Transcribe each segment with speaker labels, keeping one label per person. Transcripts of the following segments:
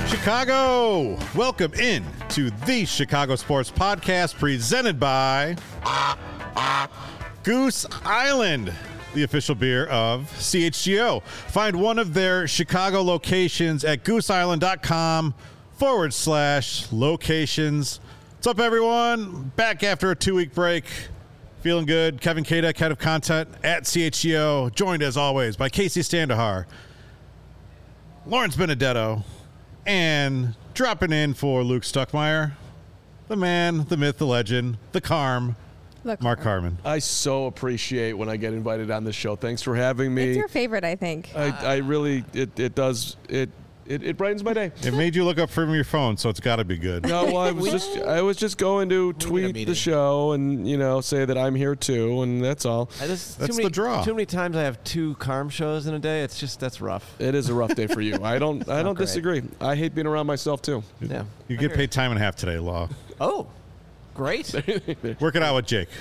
Speaker 1: Chicago, welcome in to the Chicago Sports Podcast presented by Goose Island, the official beer of CHGO. Find one of their Chicago locations at gooseisland.com/locations. What's up, everyone? Back after a 2-week break. Feeling good. Kevin Kadek, head of content at CHGO, joined as always by Casey Standahar, Lawrence Benedetto, and dropping in for Luke Stuckmeyer, the man, the myth, the legend, the Carm, Mark Carman.
Speaker 2: I so appreciate when I get invited on this show. Thanks for having me.
Speaker 3: It's your favorite, I think.
Speaker 2: I really, it does, it brightens my day.
Speaker 1: It made you look up from your phone, so it's got to be good.
Speaker 2: No, well, I was just going to tweet the show and, say that I'm here too, and that's all.
Speaker 1: That's the draw.
Speaker 4: Too many times I have 2 Carm shows in a day. That's rough.
Speaker 2: It is a rough day for you. I don't disagree. I hate being around myself too.
Speaker 4: Yeah.
Speaker 1: You get paid time and a half today, Law.
Speaker 4: Oh, great.
Speaker 1: Work it out with Jake.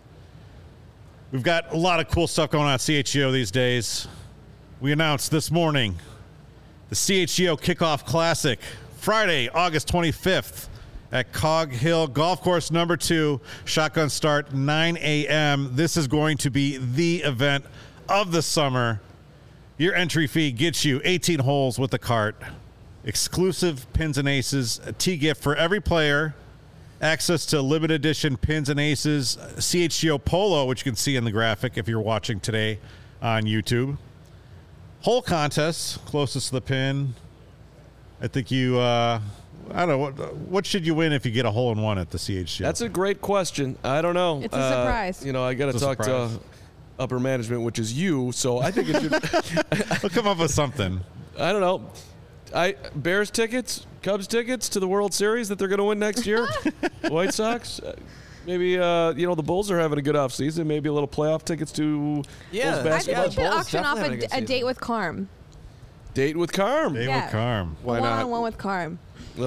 Speaker 1: We've got a lot of cool stuff going on at CHGO these days. We announced this morning the CHGO Kickoff Classic, Friday, August 25th at Cog Hill Golf Course number 2. Shotgun start 9 a.m. This is going to be the event of the summer. Your entry fee gets you 18 holes with the cart, exclusive pins and aces, a tee gift for every player, access to limited edition pins and aces, CHGO Polo, which you can see in the graphic if you're watching today on YouTube. Hole contest, closest to the pin. I think you, I don't know, what should you win if you get a hole-in-one at the CHGO?
Speaker 2: That's a great question. I don't know.
Speaker 3: It's a surprise.
Speaker 2: I got to talk to upper management, which is you, so I think it should.
Speaker 1: We'll come up with something.
Speaker 2: I don't know. Bears tickets, Cubs tickets to the World Series that they're going to win next year. White Sox. Maybe, the Bulls are having a good offseason. Maybe a little playoff tickets to Bulls basketball.
Speaker 3: I think we should auction off
Speaker 4: definitely
Speaker 3: a date with Carm.
Speaker 2: Date with Carm.
Speaker 1: Date with Carm.
Speaker 2: Why not?
Speaker 3: One-on-one with Carm.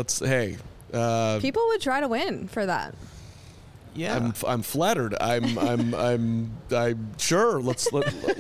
Speaker 2: People
Speaker 3: would try to win for that.
Speaker 4: Yeah.
Speaker 2: I'm flattered. I'm sure. Let's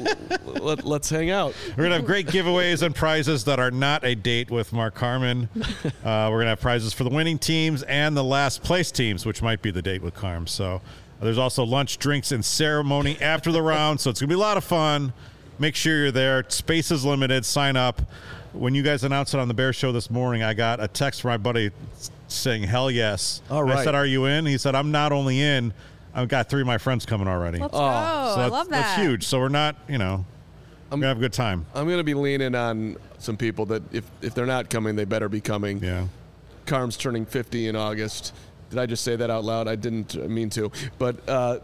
Speaker 2: hang out.
Speaker 1: We're gonna have great giveaways and prizes that are not a date with Mark Carman. We're gonna have prizes for the winning teams and the last place teams, which might be the date with Carm. So there's also lunch, drinks, and ceremony after the round. So it's gonna be a lot of fun. Make sure you're there. Space is limited. Sign up. When you guys announced it on the Bear Show this morning, I got a text from my buddy saying, hell yes.
Speaker 2: All right.
Speaker 1: I said, are you in? He said, I'm not only in, I've got 3 of my friends coming already.
Speaker 3: Let's go.
Speaker 1: So
Speaker 3: I love that.
Speaker 1: That's huge. So we're not, we're going to have a good time.
Speaker 2: I'm going to be leaning on some people that if they're not coming, they better be coming.
Speaker 1: Yeah.
Speaker 2: Carm's turning 50 in August. Did I just say that out loud? I didn't mean to. But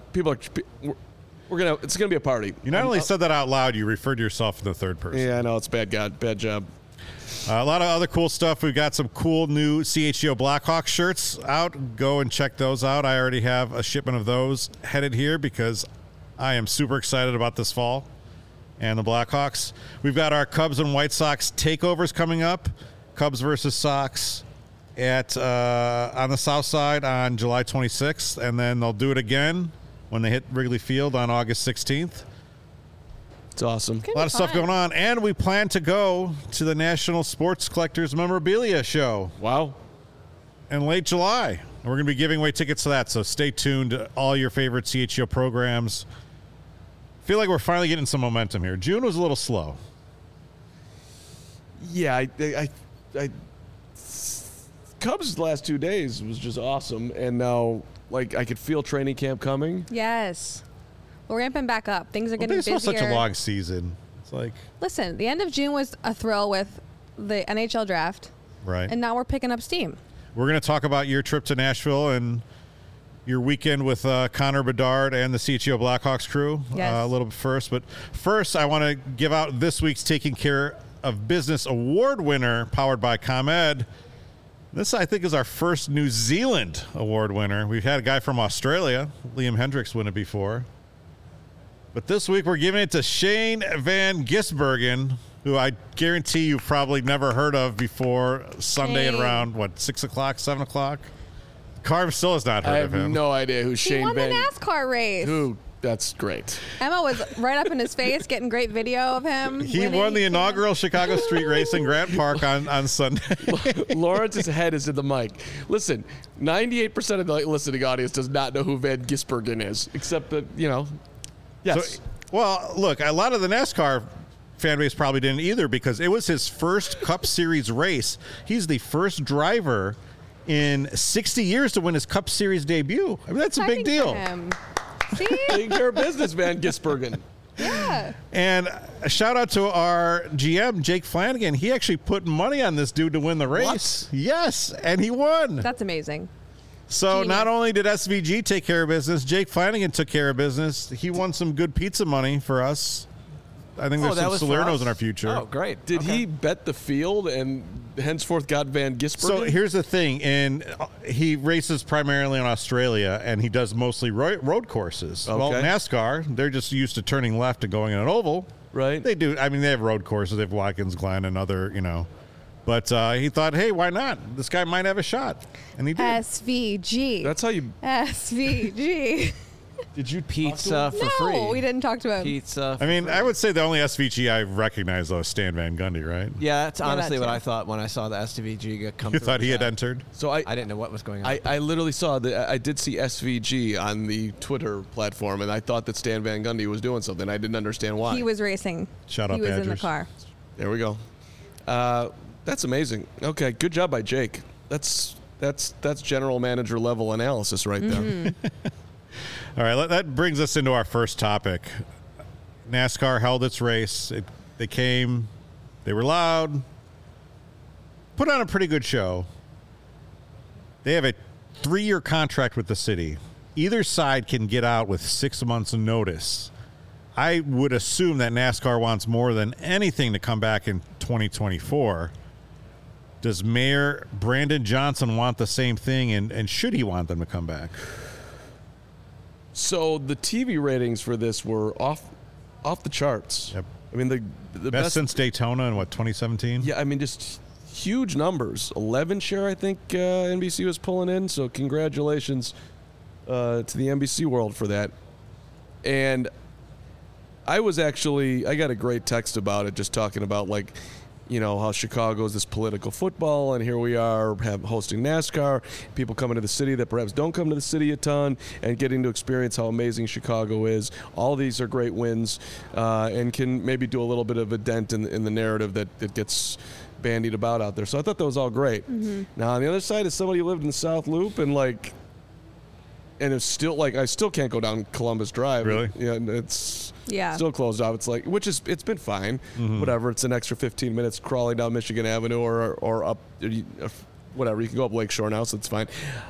Speaker 2: it's gonna be a party.
Speaker 1: You not only said that out loud, you referred to yourself in the third person.
Speaker 2: Yeah, I know. It's bad job.
Speaker 1: A lot of other cool stuff. We've got some cool new CHGO Blackhawks shirts out. Go and check those out. I already have a shipment of those headed here because I am super excited about this fall and the Blackhawks. We've got our Cubs and White Sox takeovers coming up. Cubs versus Sox at on the South Side on July 26th, and then they'll do it again when they hit Wrigley Field on August 16th.
Speaker 2: It's awesome.
Speaker 1: A lot of stuff going on. And we plan to go to the National Sports Collectors Memorabilia Show.
Speaker 2: Wow.
Speaker 1: In late July. And we're going to be giving away tickets to that, so stay tuned to all your favorite CHGO programs. Feel like we're finally getting some momentum here. June was a little slow.
Speaker 2: Yeah, Cubs' last 2 days was just awesome, and now I could feel training camp coming.
Speaker 3: Yes. We're ramping back up. Things are getting busier.
Speaker 1: It's such a long season. It's like...
Speaker 3: Listen, the end of June was a thrill with the NHL draft.
Speaker 1: Right.
Speaker 3: And now we're picking up steam.
Speaker 1: We're going to talk about your trip to Nashville and your weekend with Connor Bedard and the CHGO Blackhawks crew a little bit first. But first, I want to give out this week's Taking Care of Business Award winner, powered by ComEd. This, I think, is our first New Zealand award winner. We've had a guy from Australia, Liam Hendricks, win it before. But this week, we're giving it to Shane Van Gisbergen, who I guarantee you've probably never heard of before Sunday at around, 6 o'clock, 7 o'clock? Carm still has not heard of him.
Speaker 2: I have no idea who Shane
Speaker 3: Van...
Speaker 2: Van...
Speaker 3: He won the NASCAR race.
Speaker 2: Who? That's great.
Speaker 3: Emma was right up in his face, getting great video of him.
Speaker 1: He
Speaker 3: winning.
Speaker 1: won the inaugural Chicago Street Race in Grant Park on Sunday.
Speaker 2: Lawrence's head is in the mic. Listen, 98% of the listening audience does not know who Van Gisbergen is, except that, yes.
Speaker 1: So, well, look, a lot of the NASCAR fan base probably didn't either because it was his first Cup Series race. He's the first driver in 60 years to win his Cup Series debut. I mean, that's a big
Speaker 3: Exciting
Speaker 1: deal.
Speaker 3: for him. See?
Speaker 2: Taking care of business, Van Gisbergen.
Speaker 3: Yeah.
Speaker 1: And a shout out to our GM, Jake Flanagan. He actually put money on this dude to win the race.
Speaker 2: What?
Speaker 1: Yes, and he won.
Speaker 3: That's amazing.
Speaker 1: So
Speaker 3: Genius.
Speaker 1: not only did SVG take care of business, Jake Flanagan took care of business. He won some good pizza money for us. I think there's
Speaker 4: that
Speaker 1: some
Speaker 4: was for
Speaker 1: Salernos
Speaker 4: us?
Speaker 1: in our future.
Speaker 4: Oh, great.
Speaker 2: Did he bet the field and henceforth got Van Gisbergen?
Speaker 1: So here's the thing, and he races primarily in Australia, and he does mostly road courses. Well,
Speaker 2: Okay.
Speaker 1: NASCAR, they're just used to turning left and going in an oval.
Speaker 2: Right.
Speaker 1: They do. I mean, they have road courses. They have Watkins Glen and other, But he thought, hey, why not? This guy might have a shot, and he did.
Speaker 3: SVG.
Speaker 2: That's how you.
Speaker 3: SVG.
Speaker 2: Did you
Speaker 4: Pizza for
Speaker 3: no,
Speaker 4: free.
Speaker 3: we didn't talk to him.
Speaker 4: Pizza.
Speaker 1: I mean, I would say the only SVG I recognize, though, is Stan Van Gundy, right?
Speaker 4: Yeah, that's honestly
Speaker 3: that
Speaker 4: what
Speaker 3: too.
Speaker 4: I thought when I saw the SVG come
Speaker 1: You
Speaker 4: through
Speaker 1: thought
Speaker 4: the
Speaker 1: he had
Speaker 4: chat.
Speaker 1: entered?
Speaker 2: So
Speaker 4: I didn't know what was going on.
Speaker 2: I literally saw that. I did see SVG on the Twitter platform, and I thought that Stan Van Gundy was doing something. I didn't understand why.
Speaker 3: He was racing.
Speaker 1: Shout out
Speaker 3: He was in the
Speaker 1: Badgers.
Speaker 3: car.
Speaker 2: There we go. That's amazing. Okay, good job by Jake. That's general manager level analysis right there.
Speaker 1: All right, that brings us into our first topic. NASCAR held its race. They came. They were loud. Put on a pretty good show. They have a 3-year contract with the city. Either side can get out with 6 months' notice. I would assume that NASCAR wants more than anything to come back in 2024. Does Mayor Brandon Johnson want the same thing, and should he want them to come back?
Speaker 2: So the TV ratings for this were off the charts.
Speaker 1: Yep.
Speaker 2: I mean the
Speaker 1: Best since Daytona in, 2017?
Speaker 2: Yeah, I mean just huge numbers. 11 share, I think NBC was pulling in. So congratulations to the NBC world for that. And I got a great text about it, just talking about how Chicago is this political football, and here we are hosting NASCAR, people coming to the city that perhaps don't come to the city a ton, and getting to experience how amazing Chicago is. All these are great wins, and can maybe do a little bit of a dent in the narrative that gets bandied about out there. So I thought that was all great. Mm-hmm. Now on the other side is somebody who lived in the South Loop and it's still I still can't go down Columbus Drive.
Speaker 1: Really?
Speaker 2: Yeah, it's
Speaker 3: Yeah.
Speaker 2: still closed off. It's it's been fine. Whatever. It's an extra 15 minutes crawling down Michigan Avenue or up whatever. You can go up Lakeshore now, so it's fine.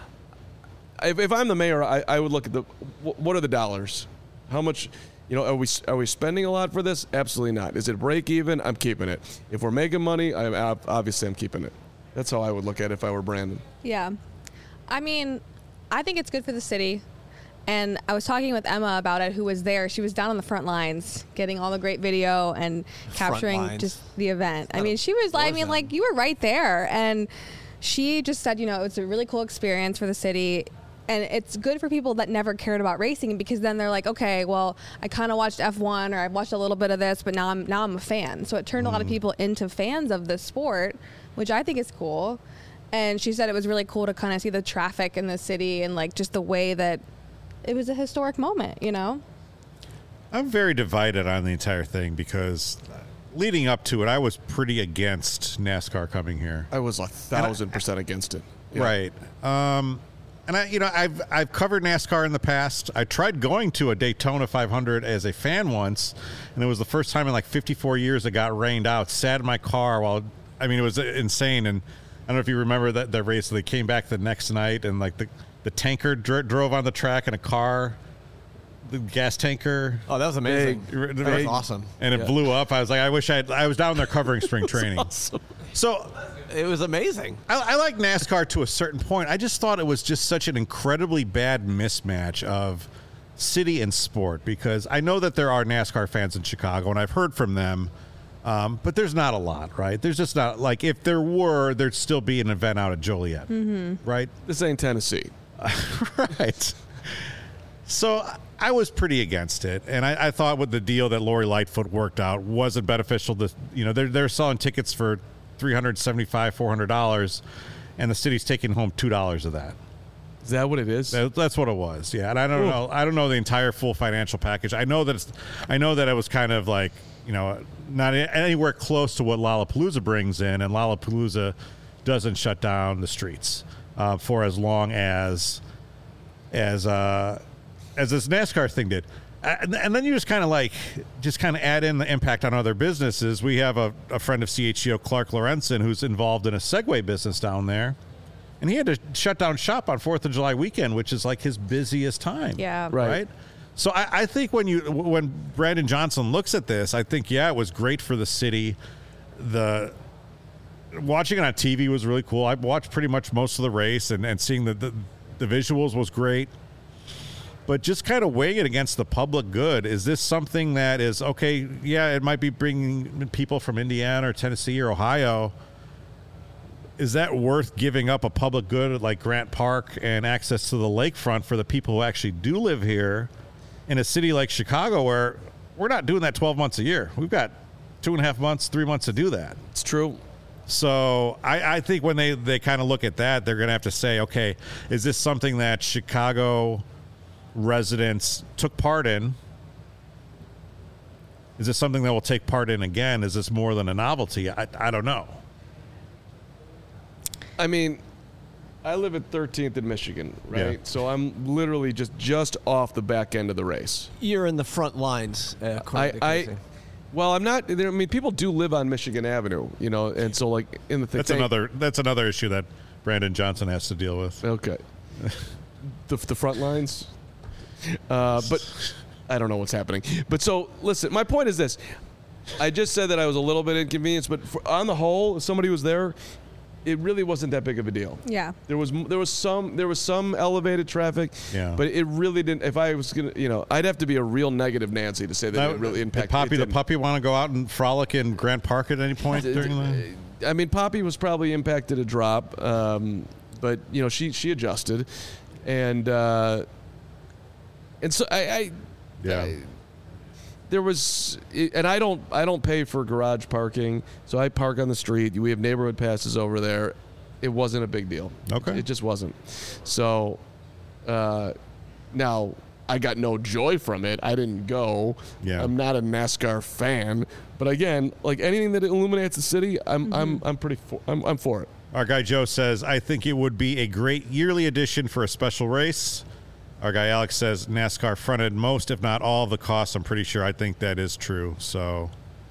Speaker 2: If I'm the mayor, I would look at what are the dollars? How much? Are we spending a lot for this? Absolutely not. Is it break even? I'm keeping it. If we're making money, obviously I'm keeping it. That's how I would look at it if I were Brandon.
Speaker 3: Yeah. I mean, I think it's good for the city. And I was talking with Emma about it, who was there. She was down on the front lines getting all the great video and capturing
Speaker 4: lines.
Speaker 3: just the event. I mean, she was, you were right there. And she just said, it's a really cool experience for the city. And it's good for people that never cared about racing, because then they're like, okay, well, I kind of watched F1 or I've watched a little bit of this, but now I'm a fan. So it turned a lot of people into fans of the sport, which I think is cool. And she said it was really cool to kind of see the traffic in the city and just the way that it was a historic moment,
Speaker 1: I'm very divided on the entire thing because leading up to it, I was pretty against NASCAR coming here.
Speaker 2: I was 1,000% against it. Yeah.
Speaker 1: Right. And I've covered NASCAR in the past. I tried going to a Daytona 500 as a fan once, and it was the first time in 54 years it got rained out. Sat in my car it was insane. And I don't know if you remember that race. They came back the next night, and the tanker drove on the track in a car, the gas tanker.
Speaker 4: Oh, that was amazing.
Speaker 1: That
Speaker 4: That was awesome.
Speaker 1: And it blew up. I was like, I wish I was down there covering spring training.
Speaker 2: Awesome.
Speaker 1: So
Speaker 4: It was amazing.
Speaker 1: I like NASCAR to a certain point. I just thought it was just such an incredibly bad mismatch of city and sport, because I know that there are NASCAR fans in Chicago, and I've heard from them, but there's not a lot, right? There's just not, if there were, there'd still be an event out at Joliet, right?
Speaker 2: This ain't Tennessee.
Speaker 1: Right. So I was pretty against it, and I thought with the deal that Lori Lightfoot worked out wasn't beneficial. To they're selling tickets for $375, $400, and the city's taking home $2 of that.
Speaker 2: Is that what it is?
Speaker 1: That's what it was. Yeah, and I don't know. I don't know the entire full financial package. I know that it was kind of like not anywhere close to what Lollapalooza brings in, and Lollapalooza doesn't shut down the streets for as long as this NASCAR thing did. And then you just kind of add in the impact on other businesses. We have a friend of CHGO, Clark Lorenzen, who's involved in a Segway business down there. And he had to shut down shop on 4th of July weekend, which is like his busiest time.
Speaker 3: Yeah.
Speaker 1: Right? So I think when Brandon Johnson looks at this, I think, it was great for the city. Watching it on TV was really cool. I watched pretty much most of the race, and seeing the visuals was great. But just kind of weighing it against the public good, is this something that is, okay, it might be bringing people from Indiana or Tennessee or Ohio. Is that worth giving up a public good like Grant Park and access to the lakefront for the people who actually do live here in a city like Chicago, where we're not doing that 12 months a year? We've got 2.5 months, 3 months to do that.
Speaker 2: It's true.
Speaker 1: So I think when they kind of look at that, they're going to have to say, okay, is this something that Chicago residents took part in? Is this something that we'll take part in again? Is this more than a novelty? I don't know.
Speaker 2: I mean, I live at 13th in Michigan, right?
Speaker 1: Yeah.
Speaker 2: So I'm literally just off the back end of the race.
Speaker 4: You're in the front lines.
Speaker 2: Well, I'm not. I mean, people do live on Michigan Avenue, and so like in the thing.
Speaker 1: That's another issue that Brandon Johnson has to deal with.
Speaker 2: Okay. the front lines. But I don't know what's happening. But so listen, my point is this: I just said that I was a little bit inconvenienced, but on the whole, if somebody was there, it really wasn't that big of a deal.
Speaker 3: Yeah.
Speaker 2: There was some elevated traffic.
Speaker 1: Yeah.
Speaker 2: But it really didn't. If I was gonna, I'd have to be a real negative Nancy to say that it really impacted.
Speaker 1: Did Poppy the puppy want to go out and frolic in Grant Park at any point during the?
Speaker 2: I mean, Poppy was probably impacted a drop, but she adjusted, and so there was, and I don't pay for garage parking, so I park on the street. We have neighborhood passes over there. It wasn't a big deal.
Speaker 1: Okay.
Speaker 2: It just wasn't. So now I got no joy from it. I didn't go.
Speaker 1: Yeah.
Speaker 2: I'm not a NASCAR fan, but again, like anything that illuminates the city, I'm for it.
Speaker 1: Our guy Joe says, I think it would be a great yearly addition for a special race. Our guy Alex says NASCAR fronted most, if not all, of the costs. I'm pretty sure. I think that is true. So,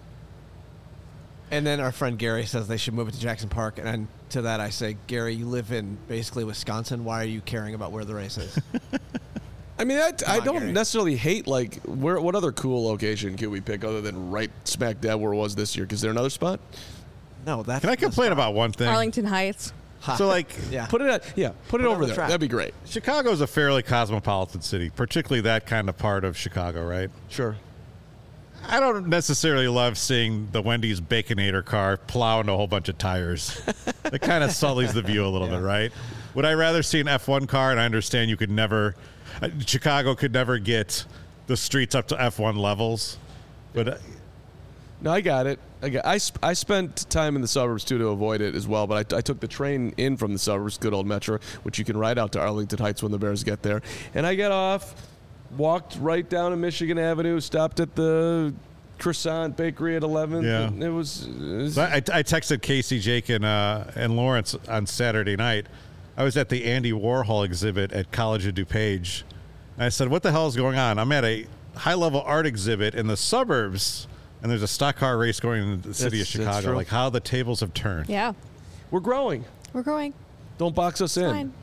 Speaker 4: and then our friend Gary says they should move it to Jackson Park. And to that I say, Gary, you live in basically Wisconsin. Why are you caring about where the race is?
Speaker 2: I mean, I don't
Speaker 4: Gary.
Speaker 2: necessarily hate, like, what other cool location could we pick other than right smack dab where it was this year? Is there another spot?
Speaker 4: No, that's.
Speaker 1: Can I complain about one thing?
Speaker 3: Arlington Heights.
Speaker 1: So, like,
Speaker 4: Yeah.
Speaker 2: Put it over there.
Speaker 4: track.
Speaker 2: That'd be great.
Speaker 1: Chicago's a fairly cosmopolitan city, particularly that kind of part of Chicago, right?
Speaker 2: Sure.
Speaker 1: I don't necessarily love seeing the Wendy's Baconator car plow into a whole bunch of tires. It kind of sullies the view a little bit, right? Would I rather see an F1 car? And I understand you could never, Chicago could never get the streets up to F1 levels, but
Speaker 2: No, I got it. I spent time in the suburbs, too, to avoid it as well, but I took the train in from the suburbs, good old Metro, which you can ride out to Arlington Heights when the Bears get there. And I got off, walked right down to Michigan Avenue, stopped at the Croissant Bakery at 11th.
Speaker 1: Yeah.
Speaker 2: And it was
Speaker 1: So I texted Casey, Jake, and Lawrence on Saturday night. I was at the Andy Warhol exhibit at College of DuPage. And I said, what the hell is going on? I'm at a high-level art exhibit in the suburbs, and there's a stock car race going into the city of
Speaker 2: That's
Speaker 1: Chicago.
Speaker 2: true.
Speaker 1: Like, how the tables have turned.
Speaker 3: Yeah.
Speaker 2: we're growing.
Speaker 3: We're growing.
Speaker 2: Don't box us in.
Speaker 3: Fine.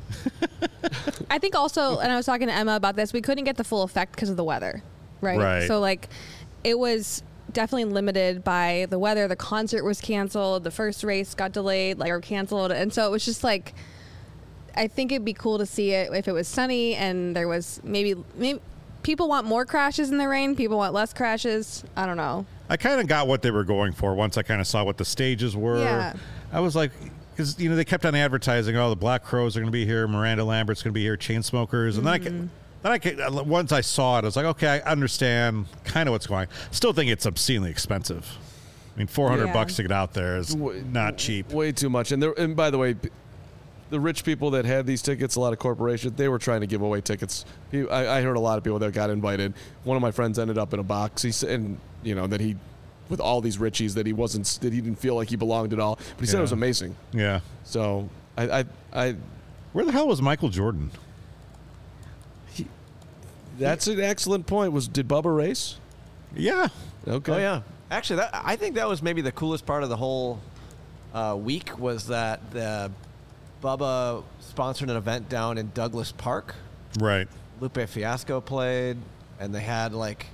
Speaker 3: I think also, and I was talking to Emma about this, we couldn't get the full effect because of the weather, right?
Speaker 1: Right.
Speaker 3: So, like, it was definitely limited by the weather. The concert was canceled. The first race got delayed, or canceled. And so it was just like, I think it'd be cool to see it if it was sunny and there was maybe people want more crashes in the rain. People want less crashes. I don't know.
Speaker 1: I kind of got what they were going for once I kind of saw what the stages were.
Speaker 3: Yeah.
Speaker 1: I was like, because, they kept on advertising, the Black Crowes are going to be here, Miranda Lambert's going to be here, Chainsmokers. And then then once I saw it, I was like, okay, I understand kind of what's going on. Still think it's obscenely expensive. I mean, $400 to get out there is not cheap.
Speaker 2: Way too much. And by the way, the rich people that had these tickets, a lot of corporations, they were trying to give away tickets. I heard a lot of people that got invited. One of my friends ended up in a box. He said, and that he, with all these richies, that he didn't feel like he belonged at all. But he said it was amazing.
Speaker 1: Yeah.
Speaker 2: So I
Speaker 1: where the hell was Michael Jordan?
Speaker 2: That's an excellent point. Did Bubba race?
Speaker 1: Yeah.
Speaker 2: Okay.
Speaker 4: Oh yeah. Actually, I think that was maybe the coolest part of the whole week was that Bubba sponsored an event down in Douglas Park.
Speaker 1: Right.
Speaker 4: Lupe Fiasco played, and they had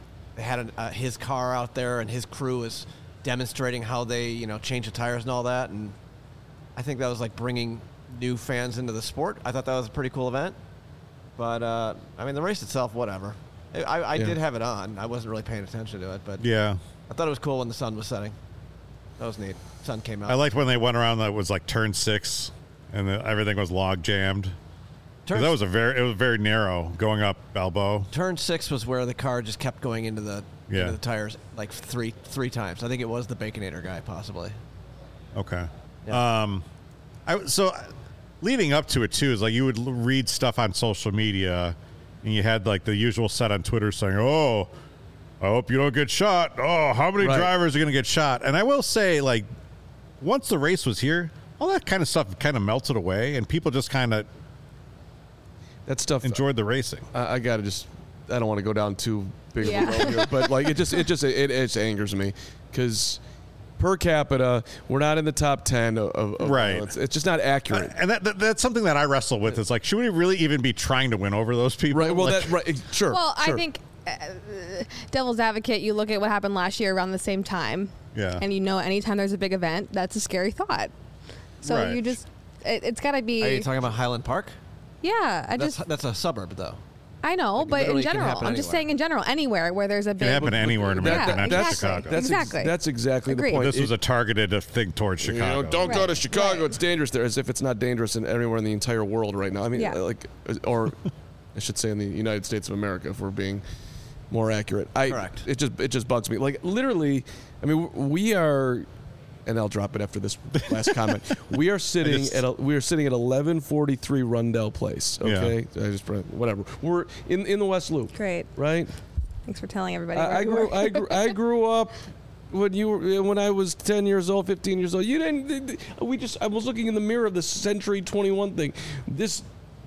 Speaker 4: his car out there, and his crew was demonstrating how they change the tires and all that. And I think that was like bringing new fans into the sport. I thought that was a pretty cool event. But I mean, the race itself, whatever. I did have it on. I wasn't really paying attention to it, but
Speaker 1: yeah,
Speaker 4: I thought it was cool when the sun was setting. That was neat. Sun came out.
Speaker 1: I liked when they went around that was like turn 6, and everything was log jammed. That was very narrow going up Balboa.
Speaker 4: Turn 6 was where the car just kept going into the tires like three times. I think it was the Baconator guy, possibly.
Speaker 1: Okay.
Speaker 4: Yeah.
Speaker 1: So leading up to it too is like you would read stuff on social media, and you had like the usual set on Twitter saying, "Oh, I hope you don't get shot. Oh, how many drivers are going to get shot?" And I will say, like, once the race was here, all that kind of stuff kind of melted away, and people just kind of enjoyed the racing.
Speaker 2: I gotta I don't want to go down too big of a road here, but like it just angers me because per capita we're not in the top 10 of
Speaker 1: right.
Speaker 2: Violence. It's just not accurate,
Speaker 1: and that's something that I wrestle with. Is like, should we really even be trying to win over those people?
Speaker 2: Right. Well,
Speaker 1: like,
Speaker 2: sure.
Speaker 3: Well,
Speaker 2: sure.
Speaker 3: I think devil's advocate, you look at what happened last year around the same time, and anytime there's a big event, that's a scary thought. So you just it's got to be.
Speaker 4: Are you talking about Highland Park?
Speaker 3: Yeah,
Speaker 4: that's a suburb though.
Speaker 3: I know,
Speaker 4: like,
Speaker 3: but in
Speaker 4: general,
Speaker 3: I'm just saying in general, anywhere where there's a big...
Speaker 1: It can happen anywhere in America, not just Chicago.
Speaker 2: That's exactly the point.
Speaker 1: This was a targeted thing towards Chicago.
Speaker 2: Don't go to Chicago. It's dangerous there, as if it's not dangerous anywhere in the entire world right now. I mean, or I should say in the United States of America, if we're being more accurate.
Speaker 4: Correct.
Speaker 2: It just bugs me. Like, literally, I mean, we are... And I'll drop it after this last comment. We are sitting at 1143 Rundell Place. Okay, whatever. We're in the West Loop.
Speaker 3: Great.
Speaker 2: Right.
Speaker 3: Thanks for telling everybody.
Speaker 2: I grew up when I was 10 years old, 15 years old. You didn't. I was looking in the mirror of the Century 21 thing. This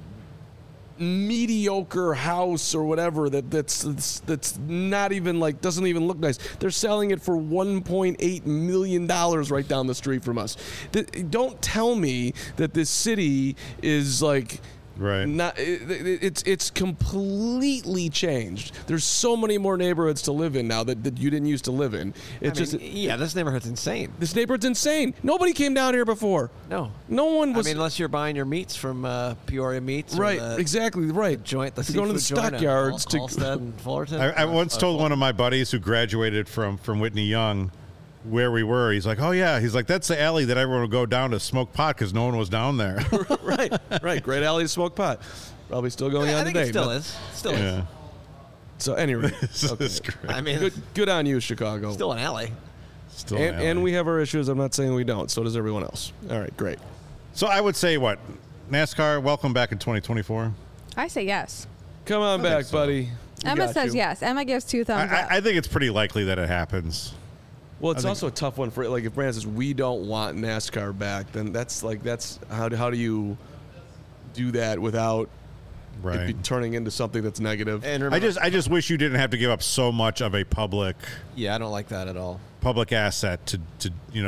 Speaker 2: mediocre house or whatever that's not even like doesn't even look nice. They're selling it for $1.8 million right down the street from us. Don't tell me that this city is like not. It's completely changed. There's so many more neighborhoods to live in now that you didn't used to live in.
Speaker 4: This neighborhood's insane.
Speaker 2: This neighborhood's insane. Nobody came down here before.
Speaker 4: No
Speaker 2: one was.
Speaker 4: I mean, unless you're buying your meats from Peoria Meats,
Speaker 2: right? Exactly right.
Speaker 4: The
Speaker 2: going to the stockyards
Speaker 4: to Halstead and Fullerton.
Speaker 1: I once told one of my buddies who graduated from Whitney Young where we were. He's like, "Oh yeah," he's like, "That's the alley that everyone would go down to smoke pot because no one was down there."
Speaker 2: right. Great alley to smoke pot. Probably still going on
Speaker 4: I think
Speaker 2: today.
Speaker 4: It still is. Still is.
Speaker 2: So anyway,
Speaker 1: this is great.
Speaker 4: I mean,
Speaker 2: good on you, Chicago.
Speaker 4: Still an alley.
Speaker 2: And we have our issues. I'm not saying we don't. So does everyone else. All right, great.
Speaker 1: So I would say NASCAR, welcome back in 2024.
Speaker 3: I say yes.
Speaker 2: Come on back, buddy.
Speaker 3: Emma says yes. Emma gives 2 thumbs up.
Speaker 1: I think it's pretty likely that it happens.
Speaker 2: Well, it's also a tough one for like if Brandon says we don't want NASCAR back, then that's how do you do that without it be turning into something that's negative?
Speaker 4: And remember,
Speaker 1: I just wish you didn't have to give up so much of a public.
Speaker 4: Yeah, I don't like that at all.
Speaker 1: Public asset to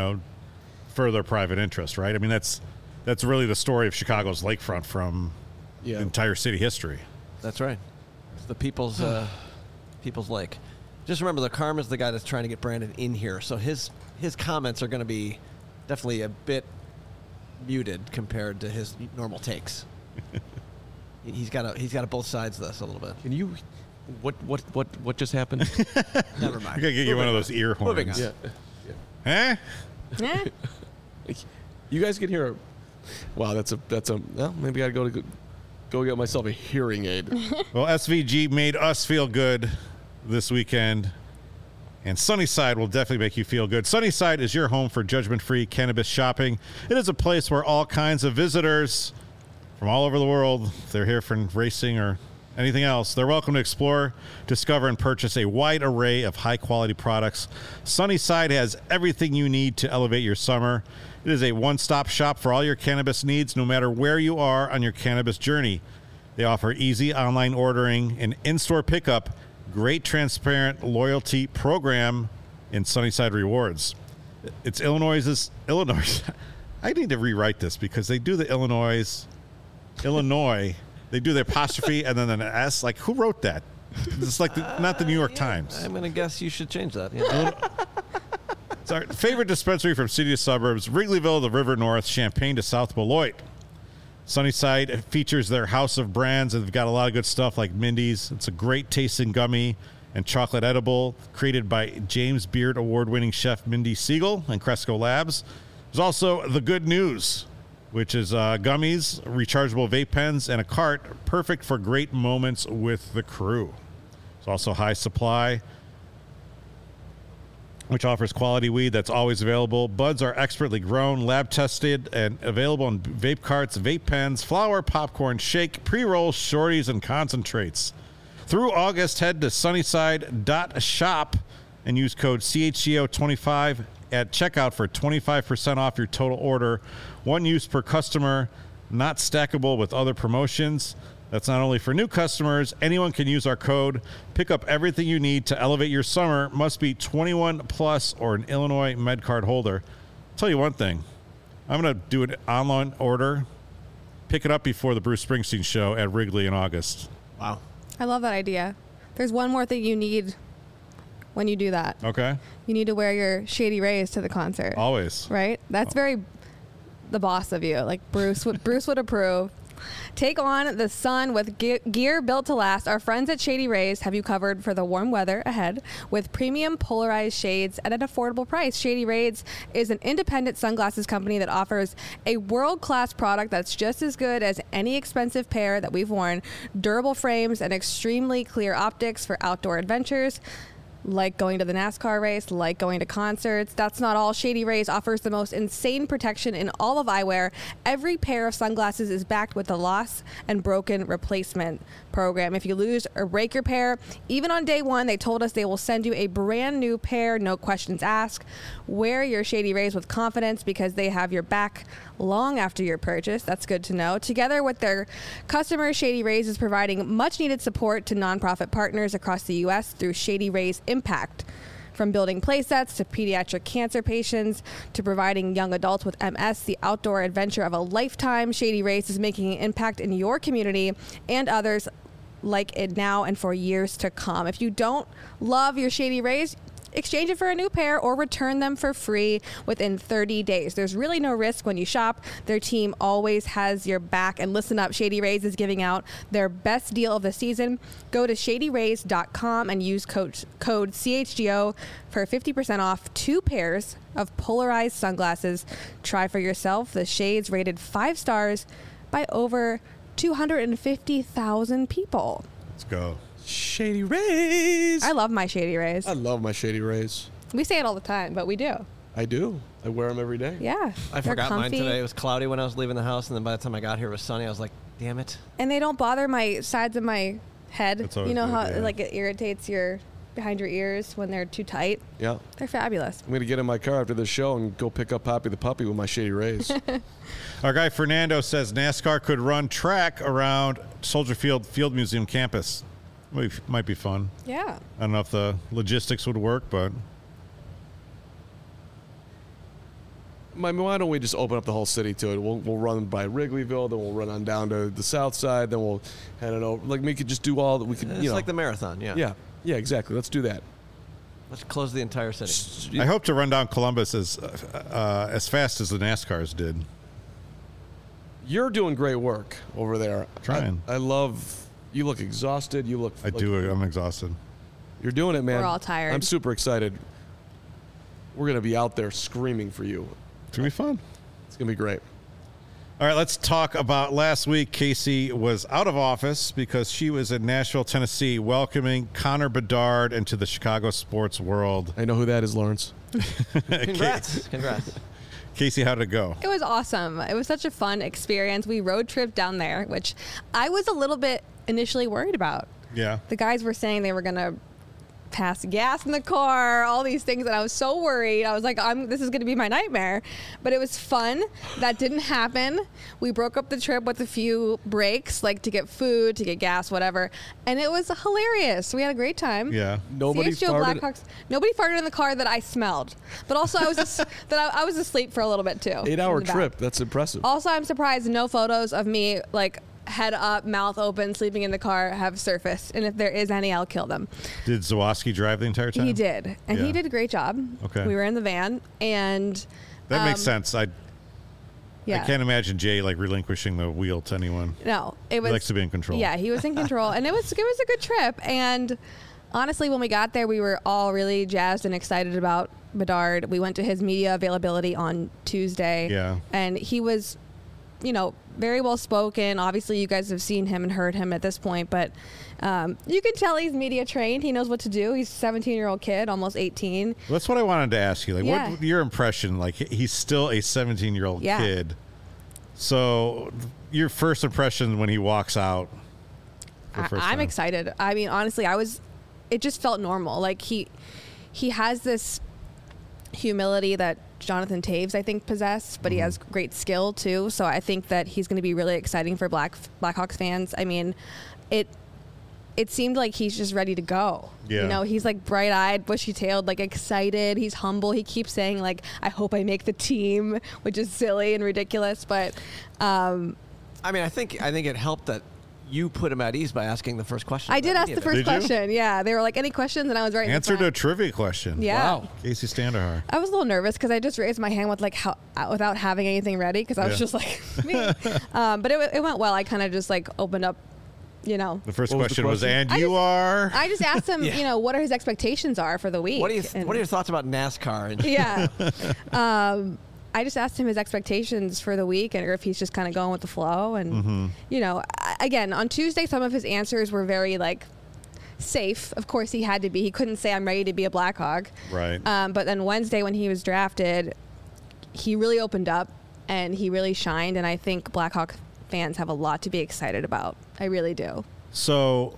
Speaker 1: further private interest, right? I mean that's really the story of Chicago's lakefront from entire city history.
Speaker 4: That's right. It's the people's lake. Just remember, the Karma's the guy that's trying to get Brandon in here, so his comments are going to be definitely a bit muted compared to his normal takes. he's got both sides of this a little bit.
Speaker 2: Can you? What just happened?
Speaker 4: Never mind.
Speaker 1: I gotta get you one of those ear horns.
Speaker 4: Moving on.
Speaker 1: Huh?
Speaker 2: You guys can hear. Wow, that's a. Well, maybe I gotta go to. go get myself a hearing aid.
Speaker 1: Well, SVG made us feel good this weekend, and Sunnyside will definitely make you feel good. Sunnyside is your home for judgment-free cannabis shopping. It is a place where all kinds of visitors from all over the world, if they're here for racing or anything else, they're welcome to explore, discover, and purchase a wide array of high-quality products. Sunnyside has everything you need to elevate your summer. It is a one-stop shop for all your cannabis needs, no matter where you are on your cannabis journey. They offer easy online ordering and in-store pickup, great transparent loyalty program, and Sunnyside Rewards. It's Illinois. I need to rewrite this because they do the Illinois. They do the apostrophe and then an S. Like, who wrote that? It's like not the New York Times.
Speaker 4: I'm going to guess you should change that. Yeah.
Speaker 1: It's our favorite dispensary from city to suburbs, Wrigleyville to River North, Champaign to South Beloit. Sunnyside features their house of brands, and they've got a lot of good stuff like Mindy's. It's a great tasting gummy and chocolate edible created by James Beard award-winning chef Mindy Siegel and Cresco Labs. There's also the Good News, which is gummies, rechargeable vape pens, and a cart, perfect for great moments with the crew. There's also High Supply, which offers quality weed that's always available. Buds are expertly grown, lab-tested, and available in vape carts, vape pens, flower, popcorn, shake, pre-rolls, shorties, and concentrates. Through August, head to sunnyside.shop and use code CHGO25 at checkout for 25% off your total order. One use per customer, not stackable with other promotions. That's not only for new customers. Anyone can use our code. Pick up everything you need to elevate your summer. Must be 21 plus or an Illinois MedCard holder. I'll tell you one thing. I'm going to do an online order. Pick it up before the Bruce Springsteen show at Wrigley in August.
Speaker 4: Wow.
Speaker 3: I love that idea. There's one more thing you need when you do that.
Speaker 1: Okay.
Speaker 3: You need to wear your Shady Rays to the concert.
Speaker 1: Always.
Speaker 3: Right? That's very the boss of you. Like Bruce would approve. Take on the sun with gear built to last. Our friends at Shady Rays have you covered for the warm weather ahead with premium polarized shades at an affordable price. Shady Rays is an independent sunglasses company that offers a world-class product that's just as good as any expensive pair that we've worn. Durable frames and extremely clear optics for outdoor adventures, like going to the NASCAR race, like going to concerts. That's not all. Shady Rays offers the most insane protection in all of eyewear. Every pair of sunglasses is backed with a loss and broken replacement program. If you lose or break your pair, even on day one, they told us they will send you a brand new pair, no questions asked. Wear your Shady Rays with confidence because they have your back long after your purchase. That's good to know. Together with their customers, Shady Rays is providing much needed support to nonprofit partners across the U.S. through Shady Rays Impact. From building play sets to pediatric cancer patients to providing young adults with MS the outdoor adventure of a lifetime, Shady Rays is making an impact in your community and others like it now and for years to come. If you don't love your Shady Rays, exchange it for a new pair or return them for free within 30 days. There's really no risk when you shop. Their team always has your back. And listen up, Shady Rays is giving out their best deal of the season. Go to shadyrays.com and use code CHGO for 50% off 2 pairs of polarized sunglasses. Try for yourself the shades rated 5 stars by over 250,000 people.
Speaker 1: Let's go.
Speaker 2: Shady Rays.
Speaker 3: I love my Shady Rays.
Speaker 2: I love my Shady Rays.
Speaker 3: We say it all the time, but we do.
Speaker 2: I do. I wear them every day.
Speaker 3: Yeah.
Speaker 4: I
Speaker 3: they're
Speaker 4: forgot mine
Speaker 3: comfy.
Speaker 4: today. It was cloudy when I was leaving the house, and then by the time I got here, it was sunny. I was like, damn it.
Speaker 3: And they don't bother my sides of my head.
Speaker 1: That's always
Speaker 3: You know
Speaker 1: good,
Speaker 3: how
Speaker 1: yeah.
Speaker 3: like it irritates your behind your ears when they're too tight.
Speaker 2: Yeah.
Speaker 3: They're fabulous.
Speaker 2: I'm going to get in my car after this show and go pick up Poppy the puppy with my Shady Rays.
Speaker 1: Our guy Fernando says NASCAR could run track around Soldier Field Museum campus. Might be fun.
Speaker 3: Yeah.
Speaker 1: I don't know if the logistics would work, but
Speaker 2: Why don't we just open up the whole city to it? We'll run by Wrigleyville, then we'll run on down to the south side, then we'll head it over. Like, we could just do all that. We could,
Speaker 4: It's like the marathon, yeah.
Speaker 2: Yeah, exactly. Let's do that.
Speaker 4: Let's close the entire city.
Speaker 1: I hope to run down Columbus as fast as the NASCARs did.
Speaker 2: You're doing great work over there.
Speaker 1: Trying.
Speaker 2: I love. You look exhausted. You look.
Speaker 1: I do. I'm exhausted.
Speaker 2: You're doing it, man.
Speaker 3: We're all tired.
Speaker 2: I'm super excited. We're gonna be out there screaming for you.
Speaker 1: It's gonna be fun.
Speaker 2: It's gonna be great.
Speaker 1: All right, let's talk about last week. Casey was out of office because she was in Nashville, Tennessee, welcoming Connor Bedard into the Chicago sports world.
Speaker 2: I know who that is, Lawrence.
Speaker 4: Congrats.
Speaker 1: Casey, how did it go?
Speaker 3: It was awesome. It was such a fun experience. We road tripped down there, which I was a little bit initially worried about.
Speaker 1: Yeah.
Speaker 3: The guys were saying they were going to pass gas in the car, all these things, and I was so worried. I was like, this is going to be my nightmare. But it was fun. That didn't happen. We broke up the trip with a few breaks, like to get food, to get gas, whatever. And it was hilarious. We had a great time.
Speaker 1: Yeah.
Speaker 2: Nobody
Speaker 3: CHGO
Speaker 2: farted.
Speaker 3: Blackhawks. Nobody farted in the car that I smelled. But also, I was asleep for a little bit too.
Speaker 2: 8-hour
Speaker 3: in the back.
Speaker 2: trip. That's impressive.
Speaker 3: Also, I'm surprised no photos of me like head up, mouth open, sleeping in the car have surfaced. And if there is any, I'll kill them.
Speaker 1: Did Zawoski drive the entire time?
Speaker 3: He did, and
Speaker 1: Yeah.
Speaker 3: he did a great job.
Speaker 1: Okay.
Speaker 3: We were in the van, and
Speaker 1: That makes sense. I
Speaker 3: yeah.
Speaker 1: can't imagine Jay like relinquishing the wheel to anyone.
Speaker 3: No, it
Speaker 1: He
Speaker 3: was.
Speaker 1: likes to be in control.
Speaker 3: Yeah, he was in control, and it was a good trip. And honestly, when we got there, we were all really jazzed and excited about Bedard. We went to his media availability on Tuesday.
Speaker 1: Yeah.
Speaker 3: And he was, very well spoken. Obviously, you guys have seen him and heard him at this point, but you can tell he's media trained. He knows what to do. He's a 17-year-old kid, almost 18.
Speaker 1: Well, that's what I wanted to ask you. Like,
Speaker 3: Yeah.
Speaker 1: what your impression? Like, he's still a 17-year-old
Speaker 3: Yeah.
Speaker 1: kid. So, your first impression when he walks out? For the first
Speaker 3: I'm
Speaker 1: time?
Speaker 3: excited. I mean, honestly, it just felt normal. Like he has this humility that Jonathan Taves, I think, possessed, but he has great skill too. So I think that he's going to be really exciting for Blackhawks fans. I mean, it seemed like he's just ready to go.
Speaker 1: Yeah.
Speaker 3: He's like bright-eyed, bushy-tailed, like excited. He's humble. He keeps saying like, "I hope I make the team," which is silly and ridiculous. But
Speaker 4: I mean, I think it helped that you put him at ease by asking the first question.
Speaker 3: I did ask the first
Speaker 1: Did you?
Speaker 3: question. Yeah, they were like, "Any questions?" And I was right.
Speaker 1: Answered a trivia question.
Speaker 3: Yeah.
Speaker 2: Wow.
Speaker 1: Casey Standahar.
Speaker 3: I was a little nervous because I just raised my hand with without having anything ready because I was
Speaker 1: Yeah.
Speaker 3: just like me. But it went well. I kind of just like opened up,
Speaker 1: The first
Speaker 2: What was the
Speaker 1: question was,
Speaker 2: question?
Speaker 1: and
Speaker 3: I
Speaker 1: you
Speaker 3: just-
Speaker 1: are?
Speaker 3: I just asked him,
Speaker 4: Yeah.
Speaker 3: what are his expectations are for the week.
Speaker 4: What are
Speaker 3: And-
Speaker 4: your thoughts about NASCAR? And
Speaker 3: Yeah. I just asked him his expectations for the week or if he's just kind of going with the flow. And, again, on Tuesday, some of his answers were very like safe. Of course, he had to be. He couldn't say, "I'm ready to be a Blackhawk."
Speaker 1: Right.
Speaker 3: But then Wednesday, when he was drafted, he really opened up and he really shined. And I think Blackhawk fans have a lot to be excited about. I really do.
Speaker 1: So,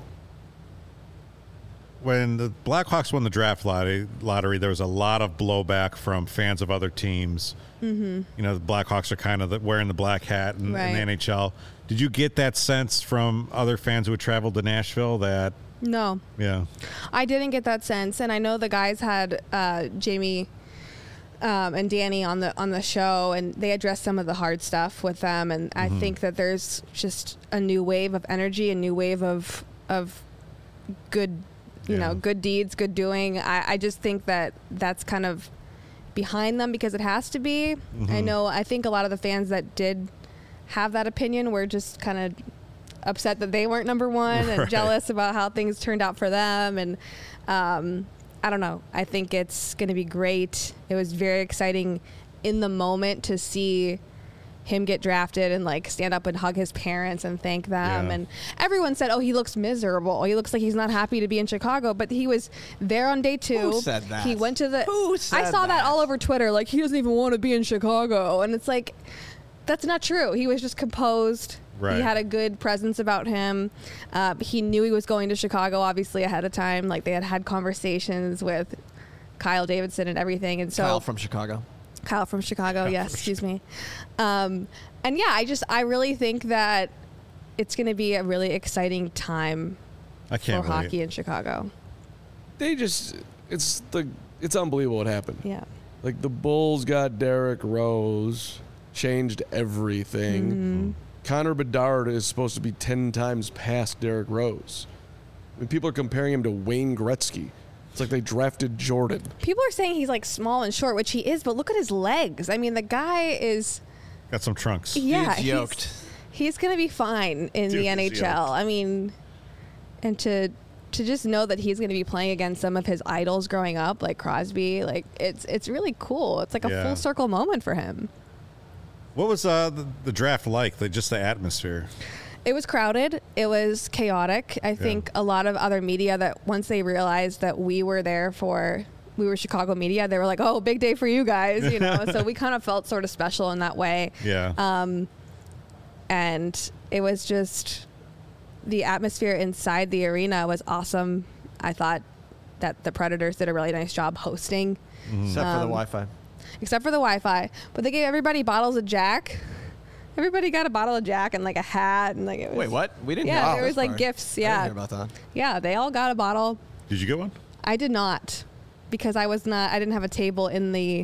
Speaker 1: when the Blackhawks won the draft lottery, there was a lot of blowback from fans of other teams. Mm-hmm. The Blackhawks are kind of wearing the black hat in the
Speaker 3: Right.
Speaker 1: NHL. Did you get that sense from other fans who had traveled to Nashville that,
Speaker 3: No,
Speaker 1: yeah,
Speaker 3: I didn't get that sense. And I know the guys had Jamie and Danny on the show, and they addressed some of the hard stuff with them. And I think that there's just a new wave of energy, a new wave of good,
Speaker 1: Yeah.
Speaker 3: good deeds, good doing. I just think that that's kind of behind them because it has to be. I think a lot of the fans that did have that opinion were just kind of upset that they weren't number one and
Speaker 1: Right.
Speaker 3: jealous about how things turned out for them. And I don't know. I think it's going to be great. It was very exciting in the moment to see him get drafted and like stand up and hug his parents and thank them.
Speaker 1: Yeah.
Speaker 3: And everyone said, "Oh, he looks miserable. He looks like he's not happy to be in Chicago." But he was there on day 2.
Speaker 4: Who said that?
Speaker 3: He went to the.
Speaker 4: Who
Speaker 3: I
Speaker 4: said
Speaker 3: saw that
Speaker 4: that?
Speaker 3: all over Twitter. Like he doesn't even want to be in Chicago, and it's like that's not true. He was just composed.
Speaker 1: Right.
Speaker 3: He had a good presence about him. He knew he was going to Chicago, obviously ahead of time. Like they had conversations with Kyle Davidson and everything, and so
Speaker 4: Kyle from Chicago.
Speaker 3: Kyle from Chicago, yes, excuse me. And yeah, I really think that it's going to be a really exciting time
Speaker 1: I
Speaker 3: for
Speaker 1: can't believe
Speaker 3: hockey in Chicago.
Speaker 2: It's unbelievable what happened.
Speaker 3: Yeah.
Speaker 2: Like the Bulls got Derrick Rose, changed everything.
Speaker 3: Mm-hmm.
Speaker 2: Connor Bedard is supposed to be 10 times past Derrick Rose. I mean, people are comparing him to Wayne Gretzky. It's like they drafted Jordan.
Speaker 3: People are saying he's like small and short, which he is, but look at his legs. I mean, the guy is,
Speaker 1: got some trunks.
Speaker 3: yeah,
Speaker 4: Dude's yoked.
Speaker 3: he's going to be fine in
Speaker 1: Dude
Speaker 3: the
Speaker 1: is
Speaker 3: NHL.
Speaker 1: yoked.
Speaker 3: I mean, and to just know that he's going to be playing against some of his idols growing up, like Crosby, like it's really cool. It's like a
Speaker 1: Yeah.
Speaker 3: full circle moment for him.
Speaker 1: What was the draft like? Just the atmosphere?
Speaker 3: It was crowded. It was chaotic. I think a lot of other media that once they realized that we were Chicago media, they were like, oh, big day for you guys, you know? So we kind of felt sort of special in that way.
Speaker 1: Yeah.
Speaker 3: And it was just, the atmosphere inside the arena was awesome. I thought that the Predators did a really nice job hosting.
Speaker 4: Except for the Wi-Fi.
Speaker 3: Except for the Wi-Fi. But they gave everybody bottles of Jack. Everybody got a bottle of Jack and like a hat and like it was.
Speaker 4: Wait, what? We didn't.
Speaker 3: Yeah,
Speaker 4: know
Speaker 3: there
Speaker 4: this
Speaker 3: was like
Speaker 4: part.
Speaker 3: gifts.
Speaker 4: I
Speaker 3: Yeah,
Speaker 4: didn't hear about that.
Speaker 3: yeah, they all got a bottle.
Speaker 1: Did you get one?
Speaker 3: I did not, because I didn't have a table in the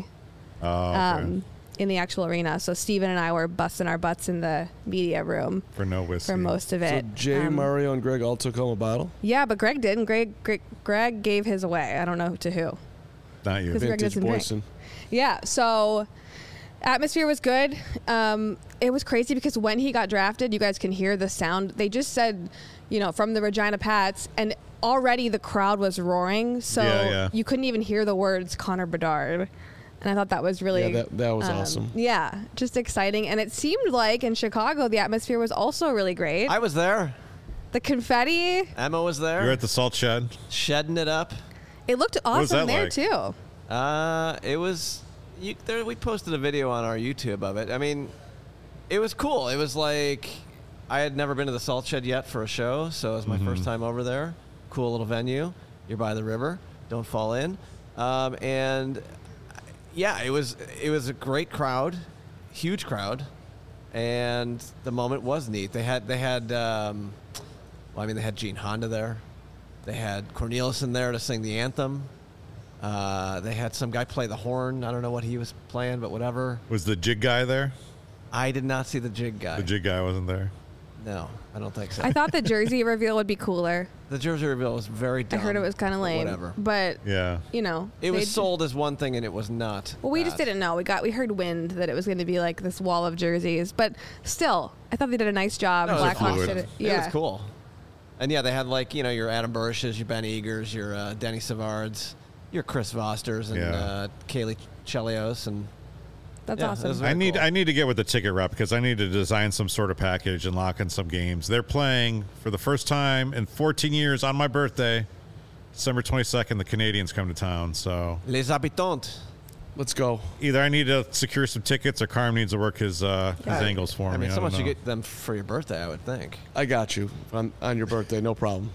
Speaker 3: in the actual arena. So Steven and I were busting our butts in the media room
Speaker 1: For no whiskey.
Speaker 3: for most of
Speaker 2: So
Speaker 3: it.
Speaker 2: Jay, Mario, and Greg all took home a bottle.
Speaker 3: Yeah, but Greg didn't. Greg gave his away. I don't know to who.
Speaker 1: Not you.
Speaker 3: 'Cause Greg
Speaker 2: Vintage
Speaker 3: doesn't drink.
Speaker 2: Boyson.
Speaker 3: Yeah, so atmosphere was good. It was crazy because when he got drafted, you guys can hear the sound. They just said, from the Regina Pats, and already the crowd was roaring, so you couldn't even hear the words Connor Bedard. And I thought that was really
Speaker 2: that was awesome.
Speaker 3: Yeah, just exciting. And it seemed like in Chicago, the atmosphere was also really great.
Speaker 4: I was there.
Speaker 3: The confetti,
Speaker 4: Emma was there.
Speaker 1: You're at the Salt Shed.
Speaker 4: Shedding it up.
Speaker 3: it looked
Speaker 1: was
Speaker 3: awesome
Speaker 1: that
Speaker 3: there
Speaker 1: like?
Speaker 3: too.
Speaker 4: It was. We posted a video on our YouTube of it. I mean, it was cool. It was like I had never been to the Salt Shed yet for a show, so it was my first time over there. Cool little venue. You're by the river. Don't fall in. And yeah, it was a great crowd, huge crowd, and the moment was neat. They had they had Gene Honda there. They had Corneliuson there to sing the anthem. They had some guy play the horn. I don't know what he was playing, but whatever.
Speaker 1: Was the jig guy there?
Speaker 4: I did not see the jig guy.
Speaker 1: The jig guy wasn't there.
Speaker 4: No, I don't think so.
Speaker 3: I thought the jersey reveal would be cooler.
Speaker 4: The jersey reveal was very dumb.
Speaker 3: I heard it was kind of
Speaker 4: but
Speaker 3: lame.
Speaker 4: Whatever.
Speaker 3: But,
Speaker 1: Yeah.
Speaker 4: It was
Speaker 3: they-
Speaker 4: sold as one thing, and it was not.
Speaker 3: Well, we just
Speaker 4: that.
Speaker 3: didn't know. We heard wind that it was going to be like this wall of jerseys, but still, I thought they did a nice job.
Speaker 4: No, it was
Speaker 3: Blackhawks
Speaker 1: fluid.
Speaker 3: did it.
Speaker 4: It
Speaker 3: Yeah,
Speaker 4: was cool. And yeah, they had like, your Adam Burishes, your Ben Eagers, your Denny Savards, your Chris Vosters, and
Speaker 1: Yeah.
Speaker 4: Kaylee Chelios, and
Speaker 3: that's
Speaker 4: yeah, it
Speaker 3: awesome.
Speaker 4: was very
Speaker 1: I
Speaker 4: cool.
Speaker 1: need to get with the ticket rep because I need to design some sort of package and lock in some games. They're playing for the first time in 14 years on my birthday, December 22nd. The Canadians come to town, so
Speaker 4: Les Habitants.
Speaker 2: Let's go.
Speaker 1: either I need to secure some tickets or Carm needs to work his angles for me.
Speaker 4: I mean,
Speaker 1: don't
Speaker 4: someone should
Speaker 1: know.
Speaker 4: get them for your birthday, I would think.
Speaker 2: I got you on your birthday. No problem.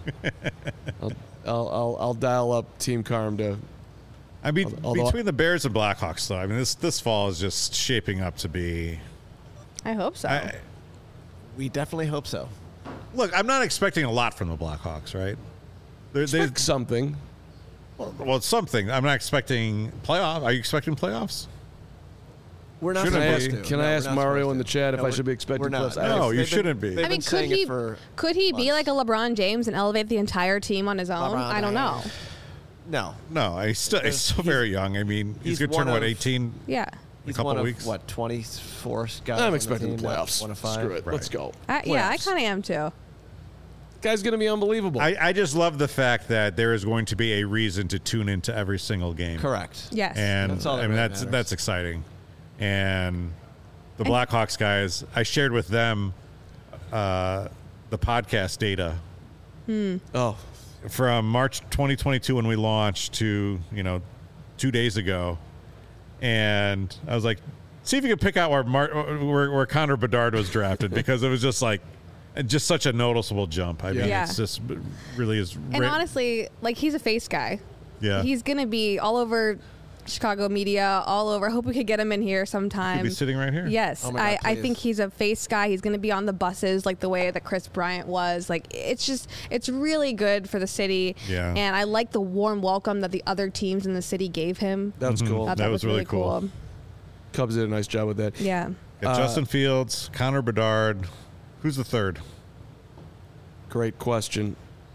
Speaker 2: I'll dial up Team Carm to.
Speaker 1: I mean,
Speaker 2: Although-
Speaker 1: between the Bears and Blackhawks, though, I mean, this fall is just shaping up to be.
Speaker 3: I hope so.
Speaker 4: We definitely hope so.
Speaker 1: Look, I'm not expecting a lot from the Blackhawks, right? They
Speaker 2: Expect something.
Speaker 1: well, it's something. I'm not expecting playoff. Are you expecting playoffs?
Speaker 4: We're not
Speaker 1: Shouldn't
Speaker 4: supposed
Speaker 1: be.
Speaker 4: to.
Speaker 2: Can
Speaker 4: No,
Speaker 2: I
Speaker 4: we're
Speaker 2: ask
Speaker 4: not
Speaker 2: Mario
Speaker 4: supposed
Speaker 2: in the
Speaker 4: to.
Speaker 2: chat if
Speaker 4: No,
Speaker 2: I should be
Speaker 4: we're
Speaker 2: expecting
Speaker 4: not.
Speaker 2: playoffs?
Speaker 1: No, you
Speaker 4: They've
Speaker 1: shouldn't be.
Speaker 4: they've
Speaker 3: I mean,
Speaker 4: been saying it for
Speaker 3: could he be
Speaker 4: months.
Speaker 3: like a LeBron James and elevate the entire team on his own?
Speaker 4: LeBron
Speaker 3: I don't know.
Speaker 4: No.
Speaker 1: No, he's still very young. I mean, he's
Speaker 4: he's
Speaker 1: going to turn,
Speaker 4: one
Speaker 1: what,
Speaker 4: of-
Speaker 1: 18?
Speaker 3: Yeah.
Speaker 4: He's
Speaker 1: couple
Speaker 4: one of,
Speaker 1: weeks.
Speaker 4: what, 24 guys? on
Speaker 2: I'm
Speaker 4: the
Speaker 2: expecting
Speaker 4: team,
Speaker 2: the
Speaker 4: not
Speaker 2: playoffs.
Speaker 4: One of 5.
Speaker 2: Screw it. Let's go.
Speaker 3: Yeah, I
Speaker 2: Playoffs.
Speaker 3: kind of am too.
Speaker 2: Guy's gonna be unbelievable.
Speaker 1: I just love the fact that there is going to be a reason to tune into every single game.
Speaker 4: Correct.
Speaker 3: Yes.
Speaker 1: And
Speaker 4: That's all that
Speaker 1: I mean,
Speaker 4: really
Speaker 1: that's
Speaker 4: matters.
Speaker 1: exciting. And the Blackhawks guys, I shared with them the podcast data
Speaker 2: oh,
Speaker 1: from March 2022 when we launched to 2 days ago, and I was like, see if you can pick out where Connor Bedard was drafted because it was just such a noticeable jump. I mean,
Speaker 3: Yeah.
Speaker 1: it's just really is.
Speaker 3: And honestly, like, he's a face guy.
Speaker 1: Yeah,
Speaker 3: He's going to be all over Chicago media, all over. I hope we could get him in here sometime.
Speaker 1: he'd be sitting right here.
Speaker 3: Yes,
Speaker 4: Oh my God,
Speaker 3: I
Speaker 4: please.
Speaker 3: think he's a face guy. He's going to be on the buses like the way that Chris Bryant was. Like, it's really good for the city.
Speaker 1: Yeah.
Speaker 3: And I like the warm welcome that the other teams in the city gave him.
Speaker 2: that's cool.
Speaker 3: Thought
Speaker 1: That was really cool.
Speaker 2: Cubs did a nice job with that.
Speaker 3: Yeah.
Speaker 1: Got Justin Fields, Connor Bedard. Who's the third?
Speaker 2: Great question.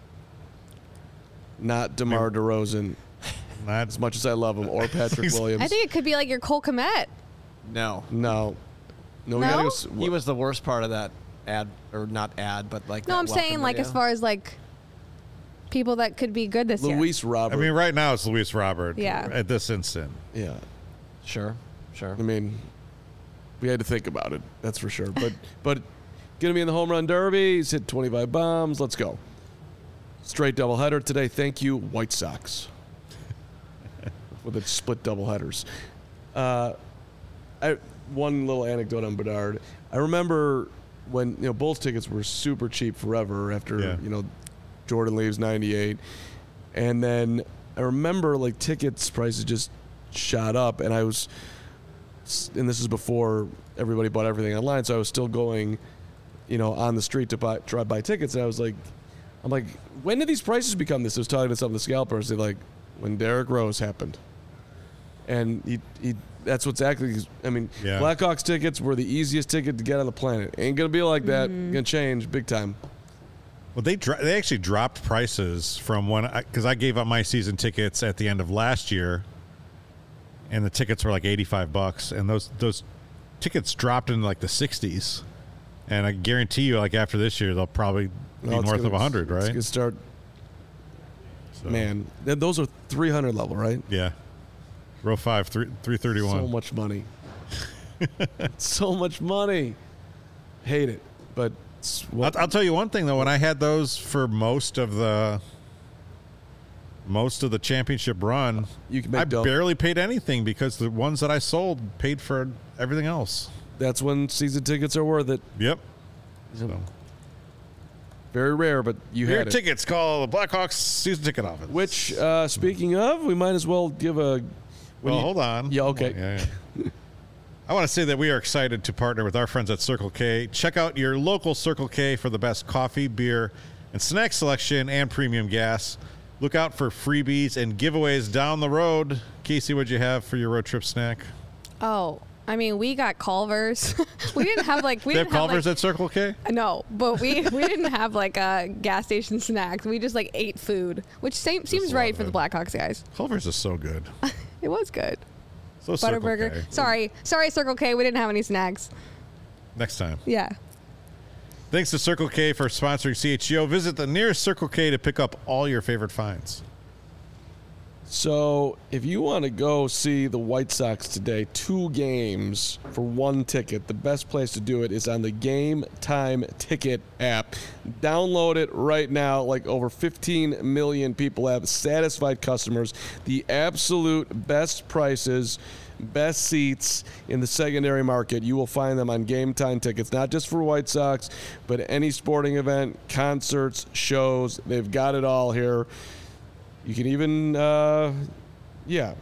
Speaker 2: Not DeMar DeRozan,
Speaker 1: Not
Speaker 2: as much as I love him, or Patrick Williams.
Speaker 3: I think it could be like your Cole Kmet.
Speaker 4: No.
Speaker 2: no, we
Speaker 3: No?
Speaker 2: gotta go.
Speaker 4: He was the worst part of that ad, or not ad, but like
Speaker 3: No,
Speaker 4: that
Speaker 3: I'm saying
Speaker 4: welcome
Speaker 3: like
Speaker 4: video.
Speaker 3: as far as like people that could be good this year.
Speaker 2: Luis Robert.
Speaker 1: I mean, right now it's Luis Robert.
Speaker 3: Yeah.
Speaker 1: At this instant.
Speaker 2: yeah.
Speaker 4: Sure.
Speaker 2: I mean, we had to think about it. That's for sure. But gonna be in the home run derby. He's hit 25 bombs. Let's go. Straight doubleheader today. Thank you, White Sox. With its split doubleheaders. One little anecdote on Bedard. I remember when Bulls tickets were super cheap forever after Jordan leaves '98, and then I remember like tickets prices just shot up, and this is before everybody bought everything online, so I was still going, on the street to try to buy tickets, and I'm like, when did these prices become this? I was talking to some of the scalpers. They're like, when Derrick Rose happened, and he that's what's actually. I mean, Blackhawks tickets were the easiest ticket to get on the planet. Ain't gonna be like that. Gonna change big time.
Speaker 1: Well, they actually dropped prices from because I gave up my season tickets at the end of last year, and the tickets were like $85, and those tickets dropped into like the 60s, and I guarantee you, like after this year, they'll probably be north of 100, right?
Speaker 2: It's gonna start. So. Man, those are 300 level, right?
Speaker 1: Yeah. Row 5, 331.
Speaker 2: So much money. So much money. Hate it, but.
Speaker 1: I'll tell you one thing though. When I had those for most of the championship run, I barely paid anything because the ones that I sold paid for everything else.
Speaker 2: That's when season tickets are worth it.
Speaker 1: Yep.
Speaker 2: So. Very rare, but you had it.
Speaker 1: Tickets, call the Blackhawks season ticket office.
Speaker 2: Which, speaking of, we might as well give a.
Speaker 1: Hold on.
Speaker 2: Yeah. Okay.
Speaker 1: Yeah. I want to say that we are excited to partner with our friends at Circle K. Check out your local Circle K for the best coffee, beer, and snack selection and premium gas. Look out for freebies and giveaways down the road. Casey, what'd you have for your road trip snack?
Speaker 3: Oh, I mean, we got Culver's. We didn't have like
Speaker 1: They have Culver's at Circle K?
Speaker 3: No, but we didn't have like a gas station snacks. We just like ate food, which seems right for the Blackhawks guys.
Speaker 1: Culver's is so good.
Speaker 3: It was good.
Speaker 1: So
Speaker 3: Butterburger. Sorry, Circle K. We didn't have any snacks.
Speaker 1: Next time.
Speaker 3: Yeah.
Speaker 1: Thanks to Circle K for sponsoring CHGO. Visit the nearest Circle K to pick up all your favorite finds.
Speaker 2: So, if you want to go see the White Sox today, 2 games for 1 ticket, the best place to do it is on the Game Time Ticket app. Download it right now. Like over 15 million people have satisfied customers. The absolute best prices, best seats in the secondary market. You will find them on Game Time Tickets, not just for White Sox, but any sporting event, concerts, shows. They've got it all here. You can even, get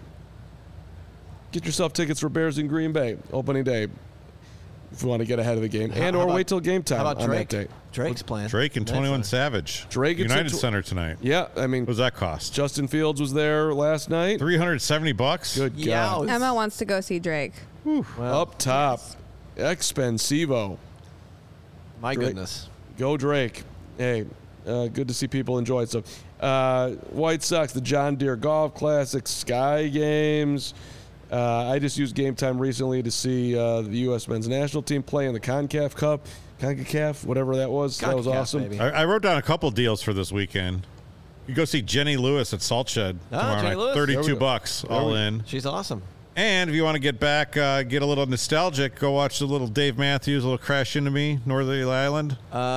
Speaker 2: yourself tickets for Bears in Green Bay, opening day, if you want to get ahead of the game, or wait till game time
Speaker 4: on
Speaker 2: that day.
Speaker 4: Drake's playing.
Speaker 1: Drake and 21 Savage.
Speaker 2: Drake at
Speaker 1: United Center tonight.
Speaker 2: Yeah, I mean.
Speaker 1: What does that cost?
Speaker 2: Justin Fields was there last night.
Speaker 1: $370?
Speaker 2: Good God.
Speaker 3: Emma wants to go see Drake.
Speaker 2: Well, up top, Expensivo.
Speaker 4: My goodness.
Speaker 2: Go Drake. Hey, good to see people enjoy it. So, White Sox, the John Deere Golf Classic, Sky Games. I just used Game Time recently to see the U.S. men's national team play in the CONCACAF, whatever that was. That was awesome.
Speaker 1: I wrote down a couple deals for this weekend. You go see Jenny Lewis at Salt Shed tomorrow night. $32 all in.
Speaker 4: She's awesome.
Speaker 1: And if you want to get back, get a little nostalgic, go watch the little Dave Matthews, a little Crash Into Me, Northerly Island.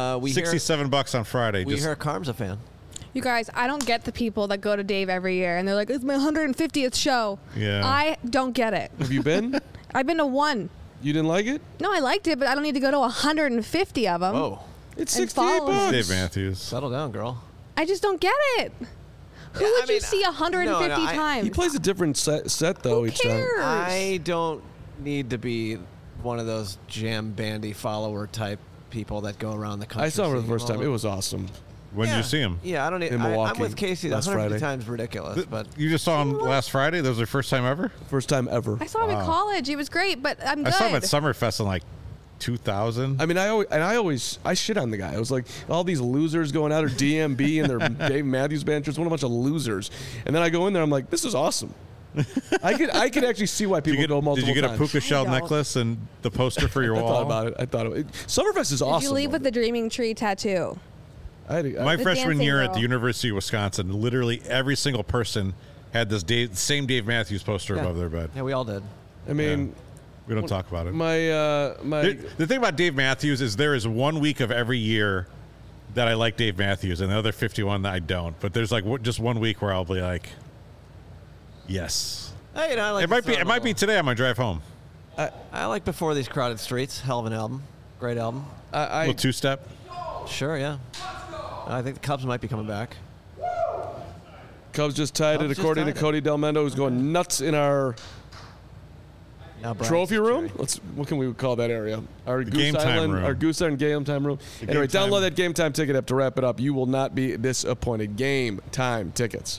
Speaker 1: $67 on Friday.
Speaker 4: We hear Carm's a fan.
Speaker 3: You guys, I don't get the people that go to Dave every year and they're like, it's my 150th show.
Speaker 1: Yeah.
Speaker 3: I don't get it.
Speaker 2: Have you been?
Speaker 3: I've been to 1.
Speaker 2: You didn't like it?
Speaker 3: No, I liked it, but I don't need to go to 150 of them.
Speaker 4: Oh.
Speaker 2: It's $68.
Speaker 1: Dave Matthews.
Speaker 4: Settle down, girl.
Speaker 3: I just don't get it. Who would you see 150 times?
Speaker 2: He plays a different set though,
Speaker 3: Who
Speaker 2: each
Speaker 3: cares?
Speaker 2: time.
Speaker 4: I don't need to be one of those jam bandy follower type people that go around the country.
Speaker 2: I saw him for the first time. It was awesome.
Speaker 1: When did you see him?
Speaker 4: Yeah, I don't need.
Speaker 2: In Milwaukee
Speaker 4: I'm with Casey.
Speaker 2: last
Speaker 4: 150
Speaker 2: Friday.
Speaker 4: times ridiculous, but
Speaker 1: You just saw him last Friday? That was your first time ever?
Speaker 2: First time ever.
Speaker 3: I saw him in college. It was great, but I'm good.
Speaker 1: I saw him at Summerfest in like 2000.
Speaker 2: I mean, I shit on the guy. I was like, all these losers going out, or DMB and their Dave Matthews Band, just what a bunch of losers. And then I go in there, I'm like, this is awesome. I could actually see why people go multiple times.
Speaker 1: Did you get a puka shell necklace and the poster for your wall?
Speaker 2: I thought about it. Summerfest is awesome.
Speaker 3: Did you leave with the Dreaming Tree tattoo?
Speaker 1: My freshman year at the
Speaker 3: girl.
Speaker 1: University of Wisconsin, literally every single person had this same Dave Matthews poster above their bed.
Speaker 4: yeah, we all did.
Speaker 2: I mean,
Speaker 1: We don't talk about it.
Speaker 2: The
Speaker 1: thing about Dave Matthews is there is 1 week of every year that I like Dave Matthews, and the other 51 that I don't. But there's like just 1 week where I'll be like, yes.
Speaker 4: Hey, I like
Speaker 1: it might be today on my drive home.
Speaker 4: I like Before These Crowded Streets. Hell of an album. Great album.
Speaker 1: A little two-step.
Speaker 4: Sure, yeah. I think the Cubs might be coming back.
Speaker 2: Cubs just tied it, according to Cody Delmendo, who's going nuts in our trophy room. What can we call that area? Our Goose Island, our Goose Island Game Time room. Anyway, download that Game Time ticket app to wrap it up. You will not be disappointed. Game Time tickets.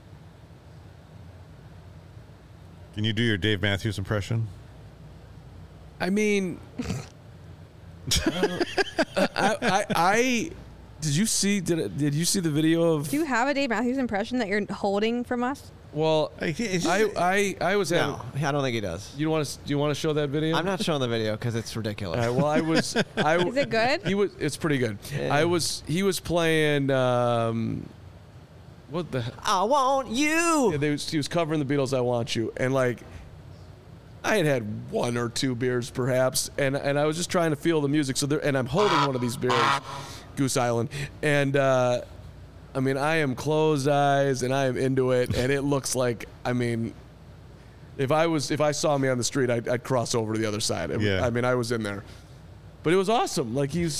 Speaker 1: Can you do your Dave Matthews impression?
Speaker 2: I mean, did you see the video of?
Speaker 3: Do you have a Dave Matthews impression that you're holding from us?
Speaker 2: Well, I was having.
Speaker 4: No, I don't think he does.
Speaker 2: Do you want to show that video?
Speaker 4: I'm not showing the video because it's ridiculous.
Speaker 2: All right, well, I was.
Speaker 3: Is it good?
Speaker 2: It's pretty good.
Speaker 4: Yeah.
Speaker 2: He was playing. What the?
Speaker 4: I want you.
Speaker 2: Yeah, he was covering the Beatles' "I Want You," and like, I had one or two beers perhaps, and I was just trying to feel the music. And I'm holding one of these beers, Goose Island, and I mean, I am closed eyes and I am into it, and it looks like, I mean, if I saw me on the street, I'd cross over to the other side.
Speaker 1: Yeah.
Speaker 2: I mean, I was in there. But it was awesome. Like I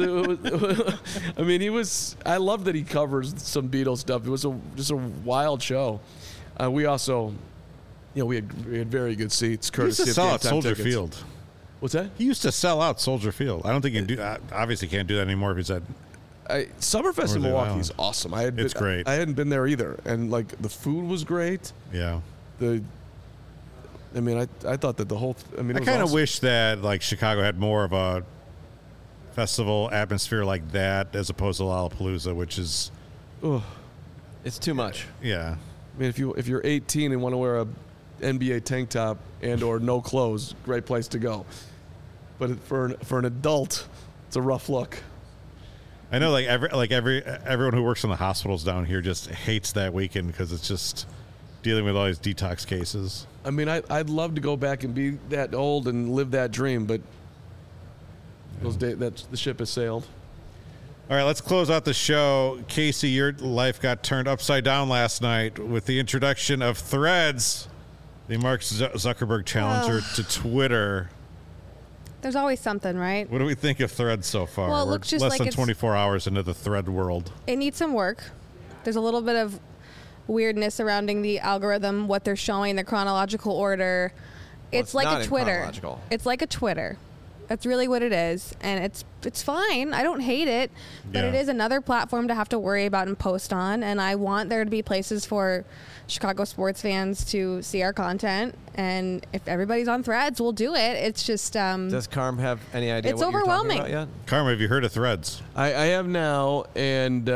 Speaker 2: love that he covers some Beatles stuff. It was just a wild show. We also, we had very good seats. Courtesy
Speaker 1: He used to
Speaker 2: of
Speaker 1: sell out Soldier
Speaker 2: tickets.
Speaker 1: Field.
Speaker 2: What's that?
Speaker 1: He used to sell out Soldier Field. I don't think he can do. Obviously, can't do that anymore if he's at.
Speaker 2: Summerfest in Milwaukee is awesome.
Speaker 1: It's great.
Speaker 2: I hadn't been there either, and like the food was great.
Speaker 1: Yeah.
Speaker 2: I thought that the whole.
Speaker 1: I kind of wish that like Chicago had more of a festival atmosphere like that as opposed to Lollapalooza, which is.
Speaker 4: It's too much.
Speaker 1: Yeah.
Speaker 2: I mean, if you're 18 and want to wear a NBA tank top and or no clothes, great place to go. But for an adult, it's a rough look.
Speaker 1: I know, everyone who works in the hospitals down here just hates that weekend because it's just dealing with all these detox cases.
Speaker 2: I mean, I'd love to go back and be that old and live that dream, but those days, the ship has sailed.
Speaker 1: All right, let's close out the show. Casey, your life got turned upside down last night with the introduction of Threads, the Mark Zuckerberg challenger to Twitter.
Speaker 3: There's always something, right?
Speaker 1: What do we think of Threads so far?
Speaker 3: Well, it
Speaker 1: We're
Speaker 3: looks just
Speaker 1: less
Speaker 3: like
Speaker 1: than
Speaker 3: it's
Speaker 1: 24 hours into the Thread world.
Speaker 3: It needs some work. There's a little bit of weirdness surrounding the algorithm, what they're showing, the chronological order. It's like a Twitter. It's like a Twitter. That's really what it is, and it's fine. I don't hate it, but it is another platform to have to worry about and post on, and I want there to be places for Chicago sports fans to see our content, and if everybody's on Threads, we'll do it. It's just
Speaker 4: does Carm have any idea
Speaker 3: it's
Speaker 4: what
Speaker 3: overwhelming.
Speaker 4: you're talking about yet?
Speaker 1: Carm, have you heard of Threads?
Speaker 2: I have now, and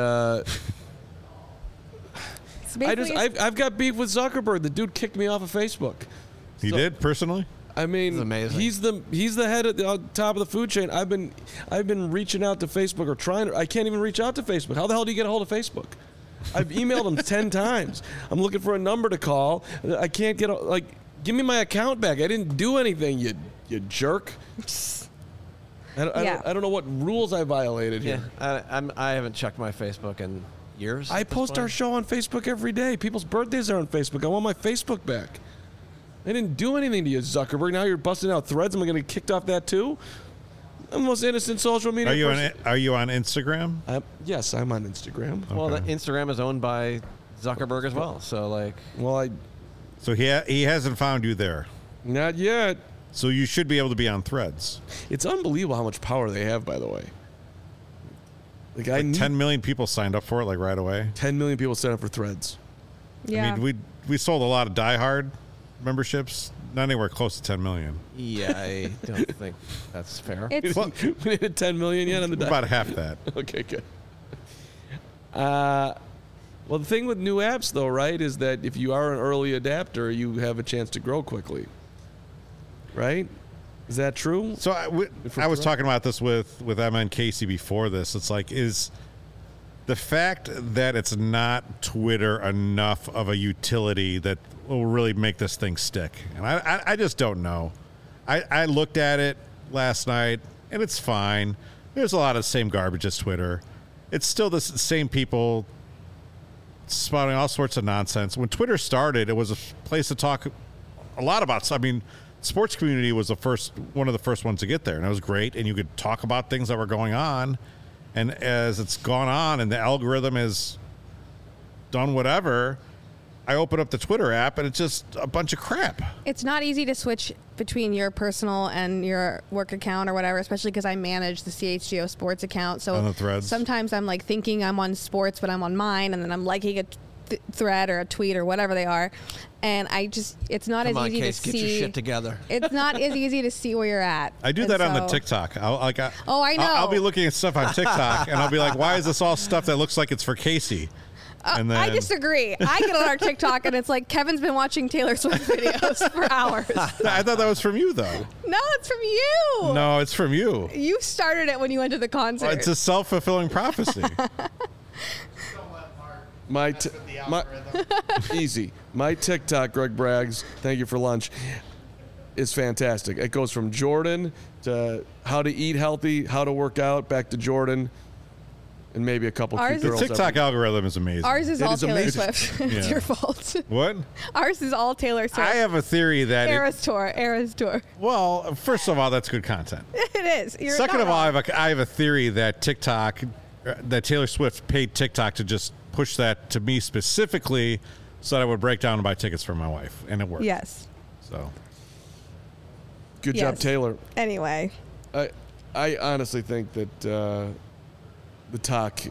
Speaker 2: I've got beef with Zuckerberg. The dude kicked me off of Facebook.
Speaker 1: He did personally?
Speaker 2: I mean, he's the head at the top of the food chain. I've been reaching out to Facebook or trying to. I can't even reach out to Facebook. How the hell do you get a hold of Facebook? I've emailed him 10 times. I'm looking for a number to call. I can't get give me my account back. I didn't do anything. You jerk. I don't know what rules I violated here.
Speaker 4: Yeah, I haven't checked my Facebook in years.
Speaker 2: I post our show on Facebook every day. People's birthdays are on Facebook. I want my Facebook back. I didn't do anything to you, Zuckerberg. Now you're busting out Threads. Am I going to get kicked off that too? I'm the most innocent social media person.
Speaker 1: Are you on Instagram?
Speaker 2: Yes, I'm on Instagram.
Speaker 1: Okay.
Speaker 4: Well, Instagram is owned by Zuckerberg as well. So
Speaker 1: So he hasn't found you there.
Speaker 2: Not yet.
Speaker 1: So you should be able to be on Threads.
Speaker 2: It's unbelievable how much power they have, by the way.
Speaker 1: 10 million people signed up for it right away.
Speaker 2: 10 million people signed up for Threads.
Speaker 3: Yeah.
Speaker 1: I mean, we sold a lot of Die Hard memberships. Not anywhere close to 10 million.
Speaker 4: Yeah, I don't think that's fair.
Speaker 3: It's
Speaker 2: We hit 10 million yet on the
Speaker 1: about half that.
Speaker 2: Okay, good. Well, the thing with new apps, though, right, is that if you are an early adapter, you have a chance to grow quickly. Right? Is that true?
Speaker 1: So I was talking about this with Emma and Casey before this. It's like, is the fact that it's not Twitter enough of a utility that will really make this thing stick? And I just don't know. I looked at it last night, and it's fine. There's a lot of the same garbage as Twitter. It's still the same people spouting all sorts of nonsense. When Twitter started, it was a place to talk a lot about. I mean, sports community was one of the first ones to get there, and it was great. And you could talk about things that were going on. And as it's gone on, and the algorithm has done whatever, I open up the Twitter app, and it's just a bunch of crap.
Speaker 3: It's not easy to switch between your personal and your work account or whatever, especially because I manage the CHGO sports account. So
Speaker 1: on the threads.
Speaker 3: Sometimes I'm like thinking I'm on sports, but I'm on mine, and then I'm liking a thread or a tweet or whatever they are. And it's not
Speaker 4: Come
Speaker 3: as
Speaker 4: on,
Speaker 3: easy
Speaker 4: Case,
Speaker 3: to
Speaker 4: get
Speaker 3: see.
Speaker 4: your shit together.
Speaker 3: It's not as easy to see where you're at.
Speaker 1: I do
Speaker 3: And
Speaker 1: that on the
Speaker 3: so-
Speaker 1: TikTok. I
Speaker 3: know.
Speaker 1: I'll be looking at stuff on TikTok, and I'll be like, why is this all stuff that looks like it's for Casey? And then
Speaker 3: I disagree. I get on our TikTok and it's like Kevin's been watching Taylor Swift videos for hours.
Speaker 1: I thought that was from you, though.
Speaker 3: No, it's from you.
Speaker 1: No, it's from you.
Speaker 3: You started it when you went to the concert.
Speaker 1: It's a self-fulfilling prophecy.
Speaker 2: Easy. My TikTok, Greg Braggs, thank you for lunch, is fantastic. It goes from Jordan to how to eat healthy, how to work out, back to Jordan, and maybe a couple
Speaker 3: Ours
Speaker 2: cute
Speaker 3: is-
Speaker 1: The
Speaker 2: girls.
Speaker 1: TikTok algorithm is amazing.
Speaker 3: Ours is
Speaker 2: It
Speaker 3: all
Speaker 2: is
Speaker 3: Taylor
Speaker 2: amazing.
Speaker 3: Swift. It's
Speaker 1: Yeah.
Speaker 3: your fault.
Speaker 1: What?
Speaker 3: Ours is all Taylor Swift.
Speaker 1: I have a theory that
Speaker 3: Eras Tour.
Speaker 1: well, first of all, that's good content.
Speaker 3: It is. You're
Speaker 1: Second
Speaker 3: not
Speaker 1: of all,
Speaker 3: wrong.
Speaker 1: I have a theory that that Taylor Swift paid TikTok to just push that to me specifically so that I would break down and buy tickets for my wife, and it worked.
Speaker 3: Yes.
Speaker 1: So
Speaker 2: Good job,
Speaker 3: Yes.
Speaker 2: Taylor.
Speaker 3: Anyway,
Speaker 2: I honestly think that the talk,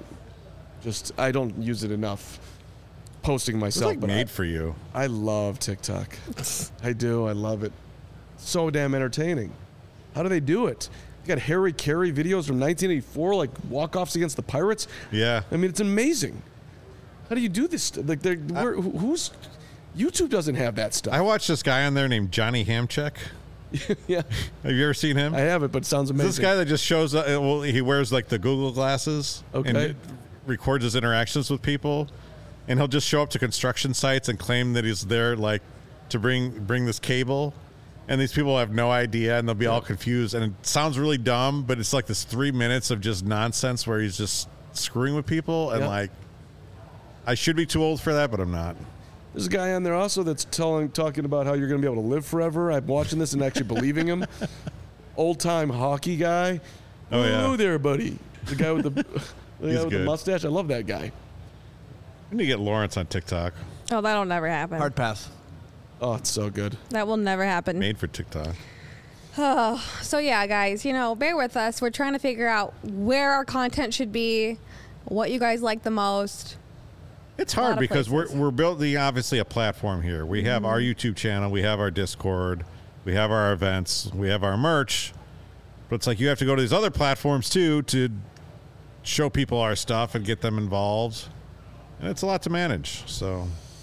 Speaker 2: I don't use it enough. Posting
Speaker 1: it's
Speaker 2: myself,
Speaker 1: like
Speaker 2: but
Speaker 1: made for you.
Speaker 2: I love TikTok. I do. I love it. So damn entertaining. How do they do it? You got Harry Carey videos from 1984, like walk-offs against the Pirates.
Speaker 1: Yeah.
Speaker 2: I mean, it's amazing. How do you do this? Like, who's YouTube doesn't have that stuff.
Speaker 1: I watched this guy on there named Johnny Hamchek.
Speaker 2: Yeah,
Speaker 1: Have you ever seen him?
Speaker 2: I have it, but it sounds amazing.
Speaker 1: This guy that just shows up, well, he wears like the Google glasses and
Speaker 2: Okay.
Speaker 1: records his interactions with people, and he'll just show up to construction sites and claim that he's there like to bring this cable, and these people have no idea, and they'll be all confused, and it sounds really dumb, but it's like this 3 minutes of just nonsense where he's just screwing with people, and
Speaker 2: Yeah.
Speaker 1: like I should be too old for that, but I'm not.
Speaker 2: There's a guy on there also that's talking about how you're going to be able to live forever. I'm watching this and actually believing him. Old time hockey guy.
Speaker 1: Oh, yeah.
Speaker 2: Hello there, buddy. The guy with the guy with the
Speaker 1: good.
Speaker 2: mustache. I love that guy.
Speaker 1: I need to get Lawrence on TikTok.
Speaker 3: oh, that'll never happen.
Speaker 4: Hard pass.
Speaker 2: Oh, it's so good.
Speaker 3: That will never happen.
Speaker 1: Made for TikTok.
Speaker 3: So yeah, guys, bear with us. We're trying to figure out where our content should be, what you guys like the most.
Speaker 1: It's
Speaker 3: lot
Speaker 1: hard
Speaker 3: of
Speaker 1: because
Speaker 3: places.
Speaker 1: we're building obviously a platform here. We have our YouTube channel, we have our Discord, we have our events, we have our merch. But it's like you have to go to these other platforms too to show people our stuff and get them involved. And it's a lot to manage. So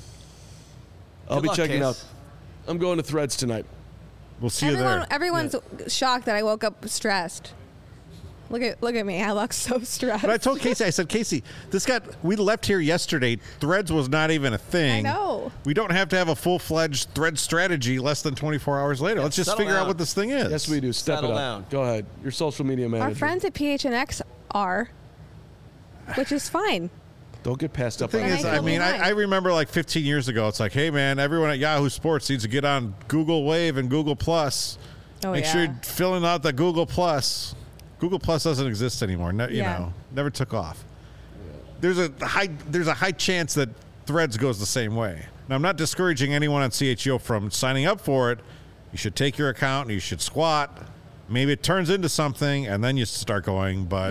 Speaker 2: I'll
Speaker 4: Good
Speaker 2: be
Speaker 4: luck,
Speaker 2: checking
Speaker 4: Case.
Speaker 2: out. I'm going to Threads tonight.
Speaker 1: we'll see you there.
Speaker 3: Everyone's shocked that I woke up stressed. Look at me. I look so stressed.
Speaker 1: But I told Casey, I said, Casey, we left here yesterday. Threads was not even a thing.
Speaker 3: I know.
Speaker 1: We don't have to have a full-fledged Thread strategy less than 24 hours later. Let's just
Speaker 4: settle
Speaker 1: figure out
Speaker 4: down.
Speaker 1: what this thing is.
Speaker 2: Yes, we do. Step
Speaker 4: Settle
Speaker 2: it up.
Speaker 4: down.
Speaker 2: Go ahead. Your social media manager.
Speaker 3: Our friends at PHNX are, which is fine.
Speaker 2: Don't get passed up
Speaker 1: The
Speaker 2: on
Speaker 1: thing
Speaker 3: And
Speaker 1: is,
Speaker 3: I
Speaker 1: I
Speaker 3: feel
Speaker 1: mean,
Speaker 3: behind.
Speaker 1: I remember like 15 years ago, it's like, hey, man, everyone at Yahoo Sports needs to get on Google Wave and Google Plus.
Speaker 3: Oh,
Speaker 1: Make
Speaker 3: yeah.
Speaker 1: sure you're filling out the Google Plus. Google Plus doesn't exist anymore.
Speaker 3: Yeah.
Speaker 1: Never took off. There's a high chance that Threads goes the same way. Now, I'm not discouraging anyone on CHGO from signing up for it. You should take your account and you should squat. Maybe it turns into something and then you start going. But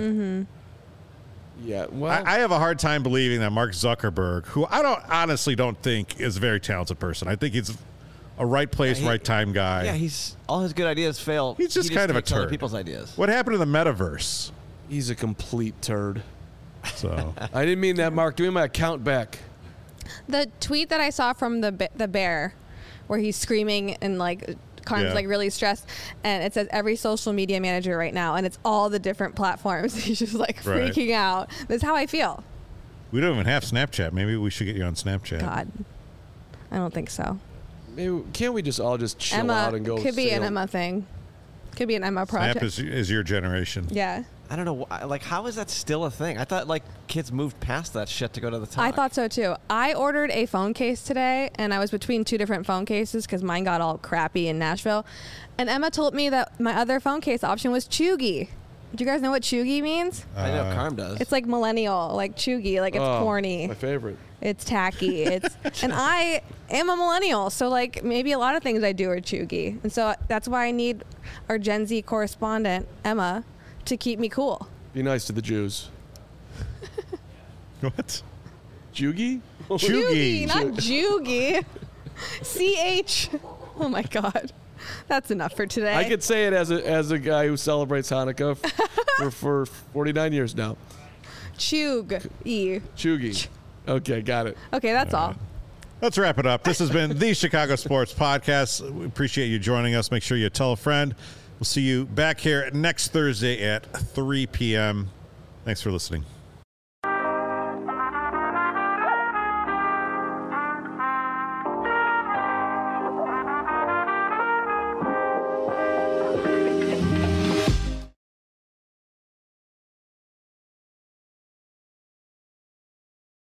Speaker 2: Yeah. Well,
Speaker 1: I have a hard time believing that Mark Zuckerberg, who I honestly don't think is a very talented person. I think he's a right place,
Speaker 4: Yeah,
Speaker 1: right time guy.
Speaker 4: Yeah, all his good ideas fail.
Speaker 1: He's just
Speaker 4: He
Speaker 1: kind of a
Speaker 4: takes other
Speaker 1: turd.
Speaker 4: people's ideas.
Speaker 1: What happened to the metaverse?
Speaker 2: he's a complete turd.
Speaker 1: So
Speaker 2: I didn't mean that, Mark. Give me my account back.
Speaker 3: The tweet that I saw from the bear, where he's screaming and like kind
Speaker 1: Yeah.
Speaker 3: of like really stressed, and it says every social media manager right now, and it's all the different platforms. He's just like
Speaker 1: Right.
Speaker 3: freaking out. That's how I feel.
Speaker 1: we don't even have Snapchat. Maybe we should get you on Snapchat.
Speaker 3: God, I don't think so.
Speaker 2: maybe can't we just all just chill
Speaker 3: Emma
Speaker 2: out and go?
Speaker 3: could be an
Speaker 2: sail?
Speaker 3: Emma thing. Could be an Emma project.
Speaker 1: Snap is your generation.
Speaker 3: Yeah.
Speaker 4: I don't know. Like, how is that still a thing? I thought like kids moved past that shit to go to the talk.
Speaker 3: I thought so too. I ordered a phone case today, and I was between two different phone cases because mine got all crappy in Nashville. And Emma told me that my other phone case option was chuggy. Do you guys know what chuggy means?
Speaker 4: I know Carm does.
Speaker 3: It's like millennial, like chuggy, like it's corny.
Speaker 2: My favorite.
Speaker 3: It's tacky. It's and I am a millennial, so like maybe a lot of things I do are chuggy, and so that's why I need our Gen Z correspondent Emma to keep me cool.
Speaker 2: Be nice to the Jews.
Speaker 1: What?
Speaker 2: Jugi?
Speaker 1: Chuggy.
Speaker 3: Not juggy. CH. Oh my God. That's enough for today.
Speaker 2: I could say it as a guy who celebrates Hanukkah for 49 years now.
Speaker 3: Chug-y.
Speaker 2: Chugi. Okay, got it.
Speaker 3: Okay, that's all.
Speaker 1: Let's wrap it up. This has been the Chicago Sports Podcast. We appreciate you joining us. Make sure you tell a friend. We'll see you back here next Thursday at 3 p.m. Thanks for listening.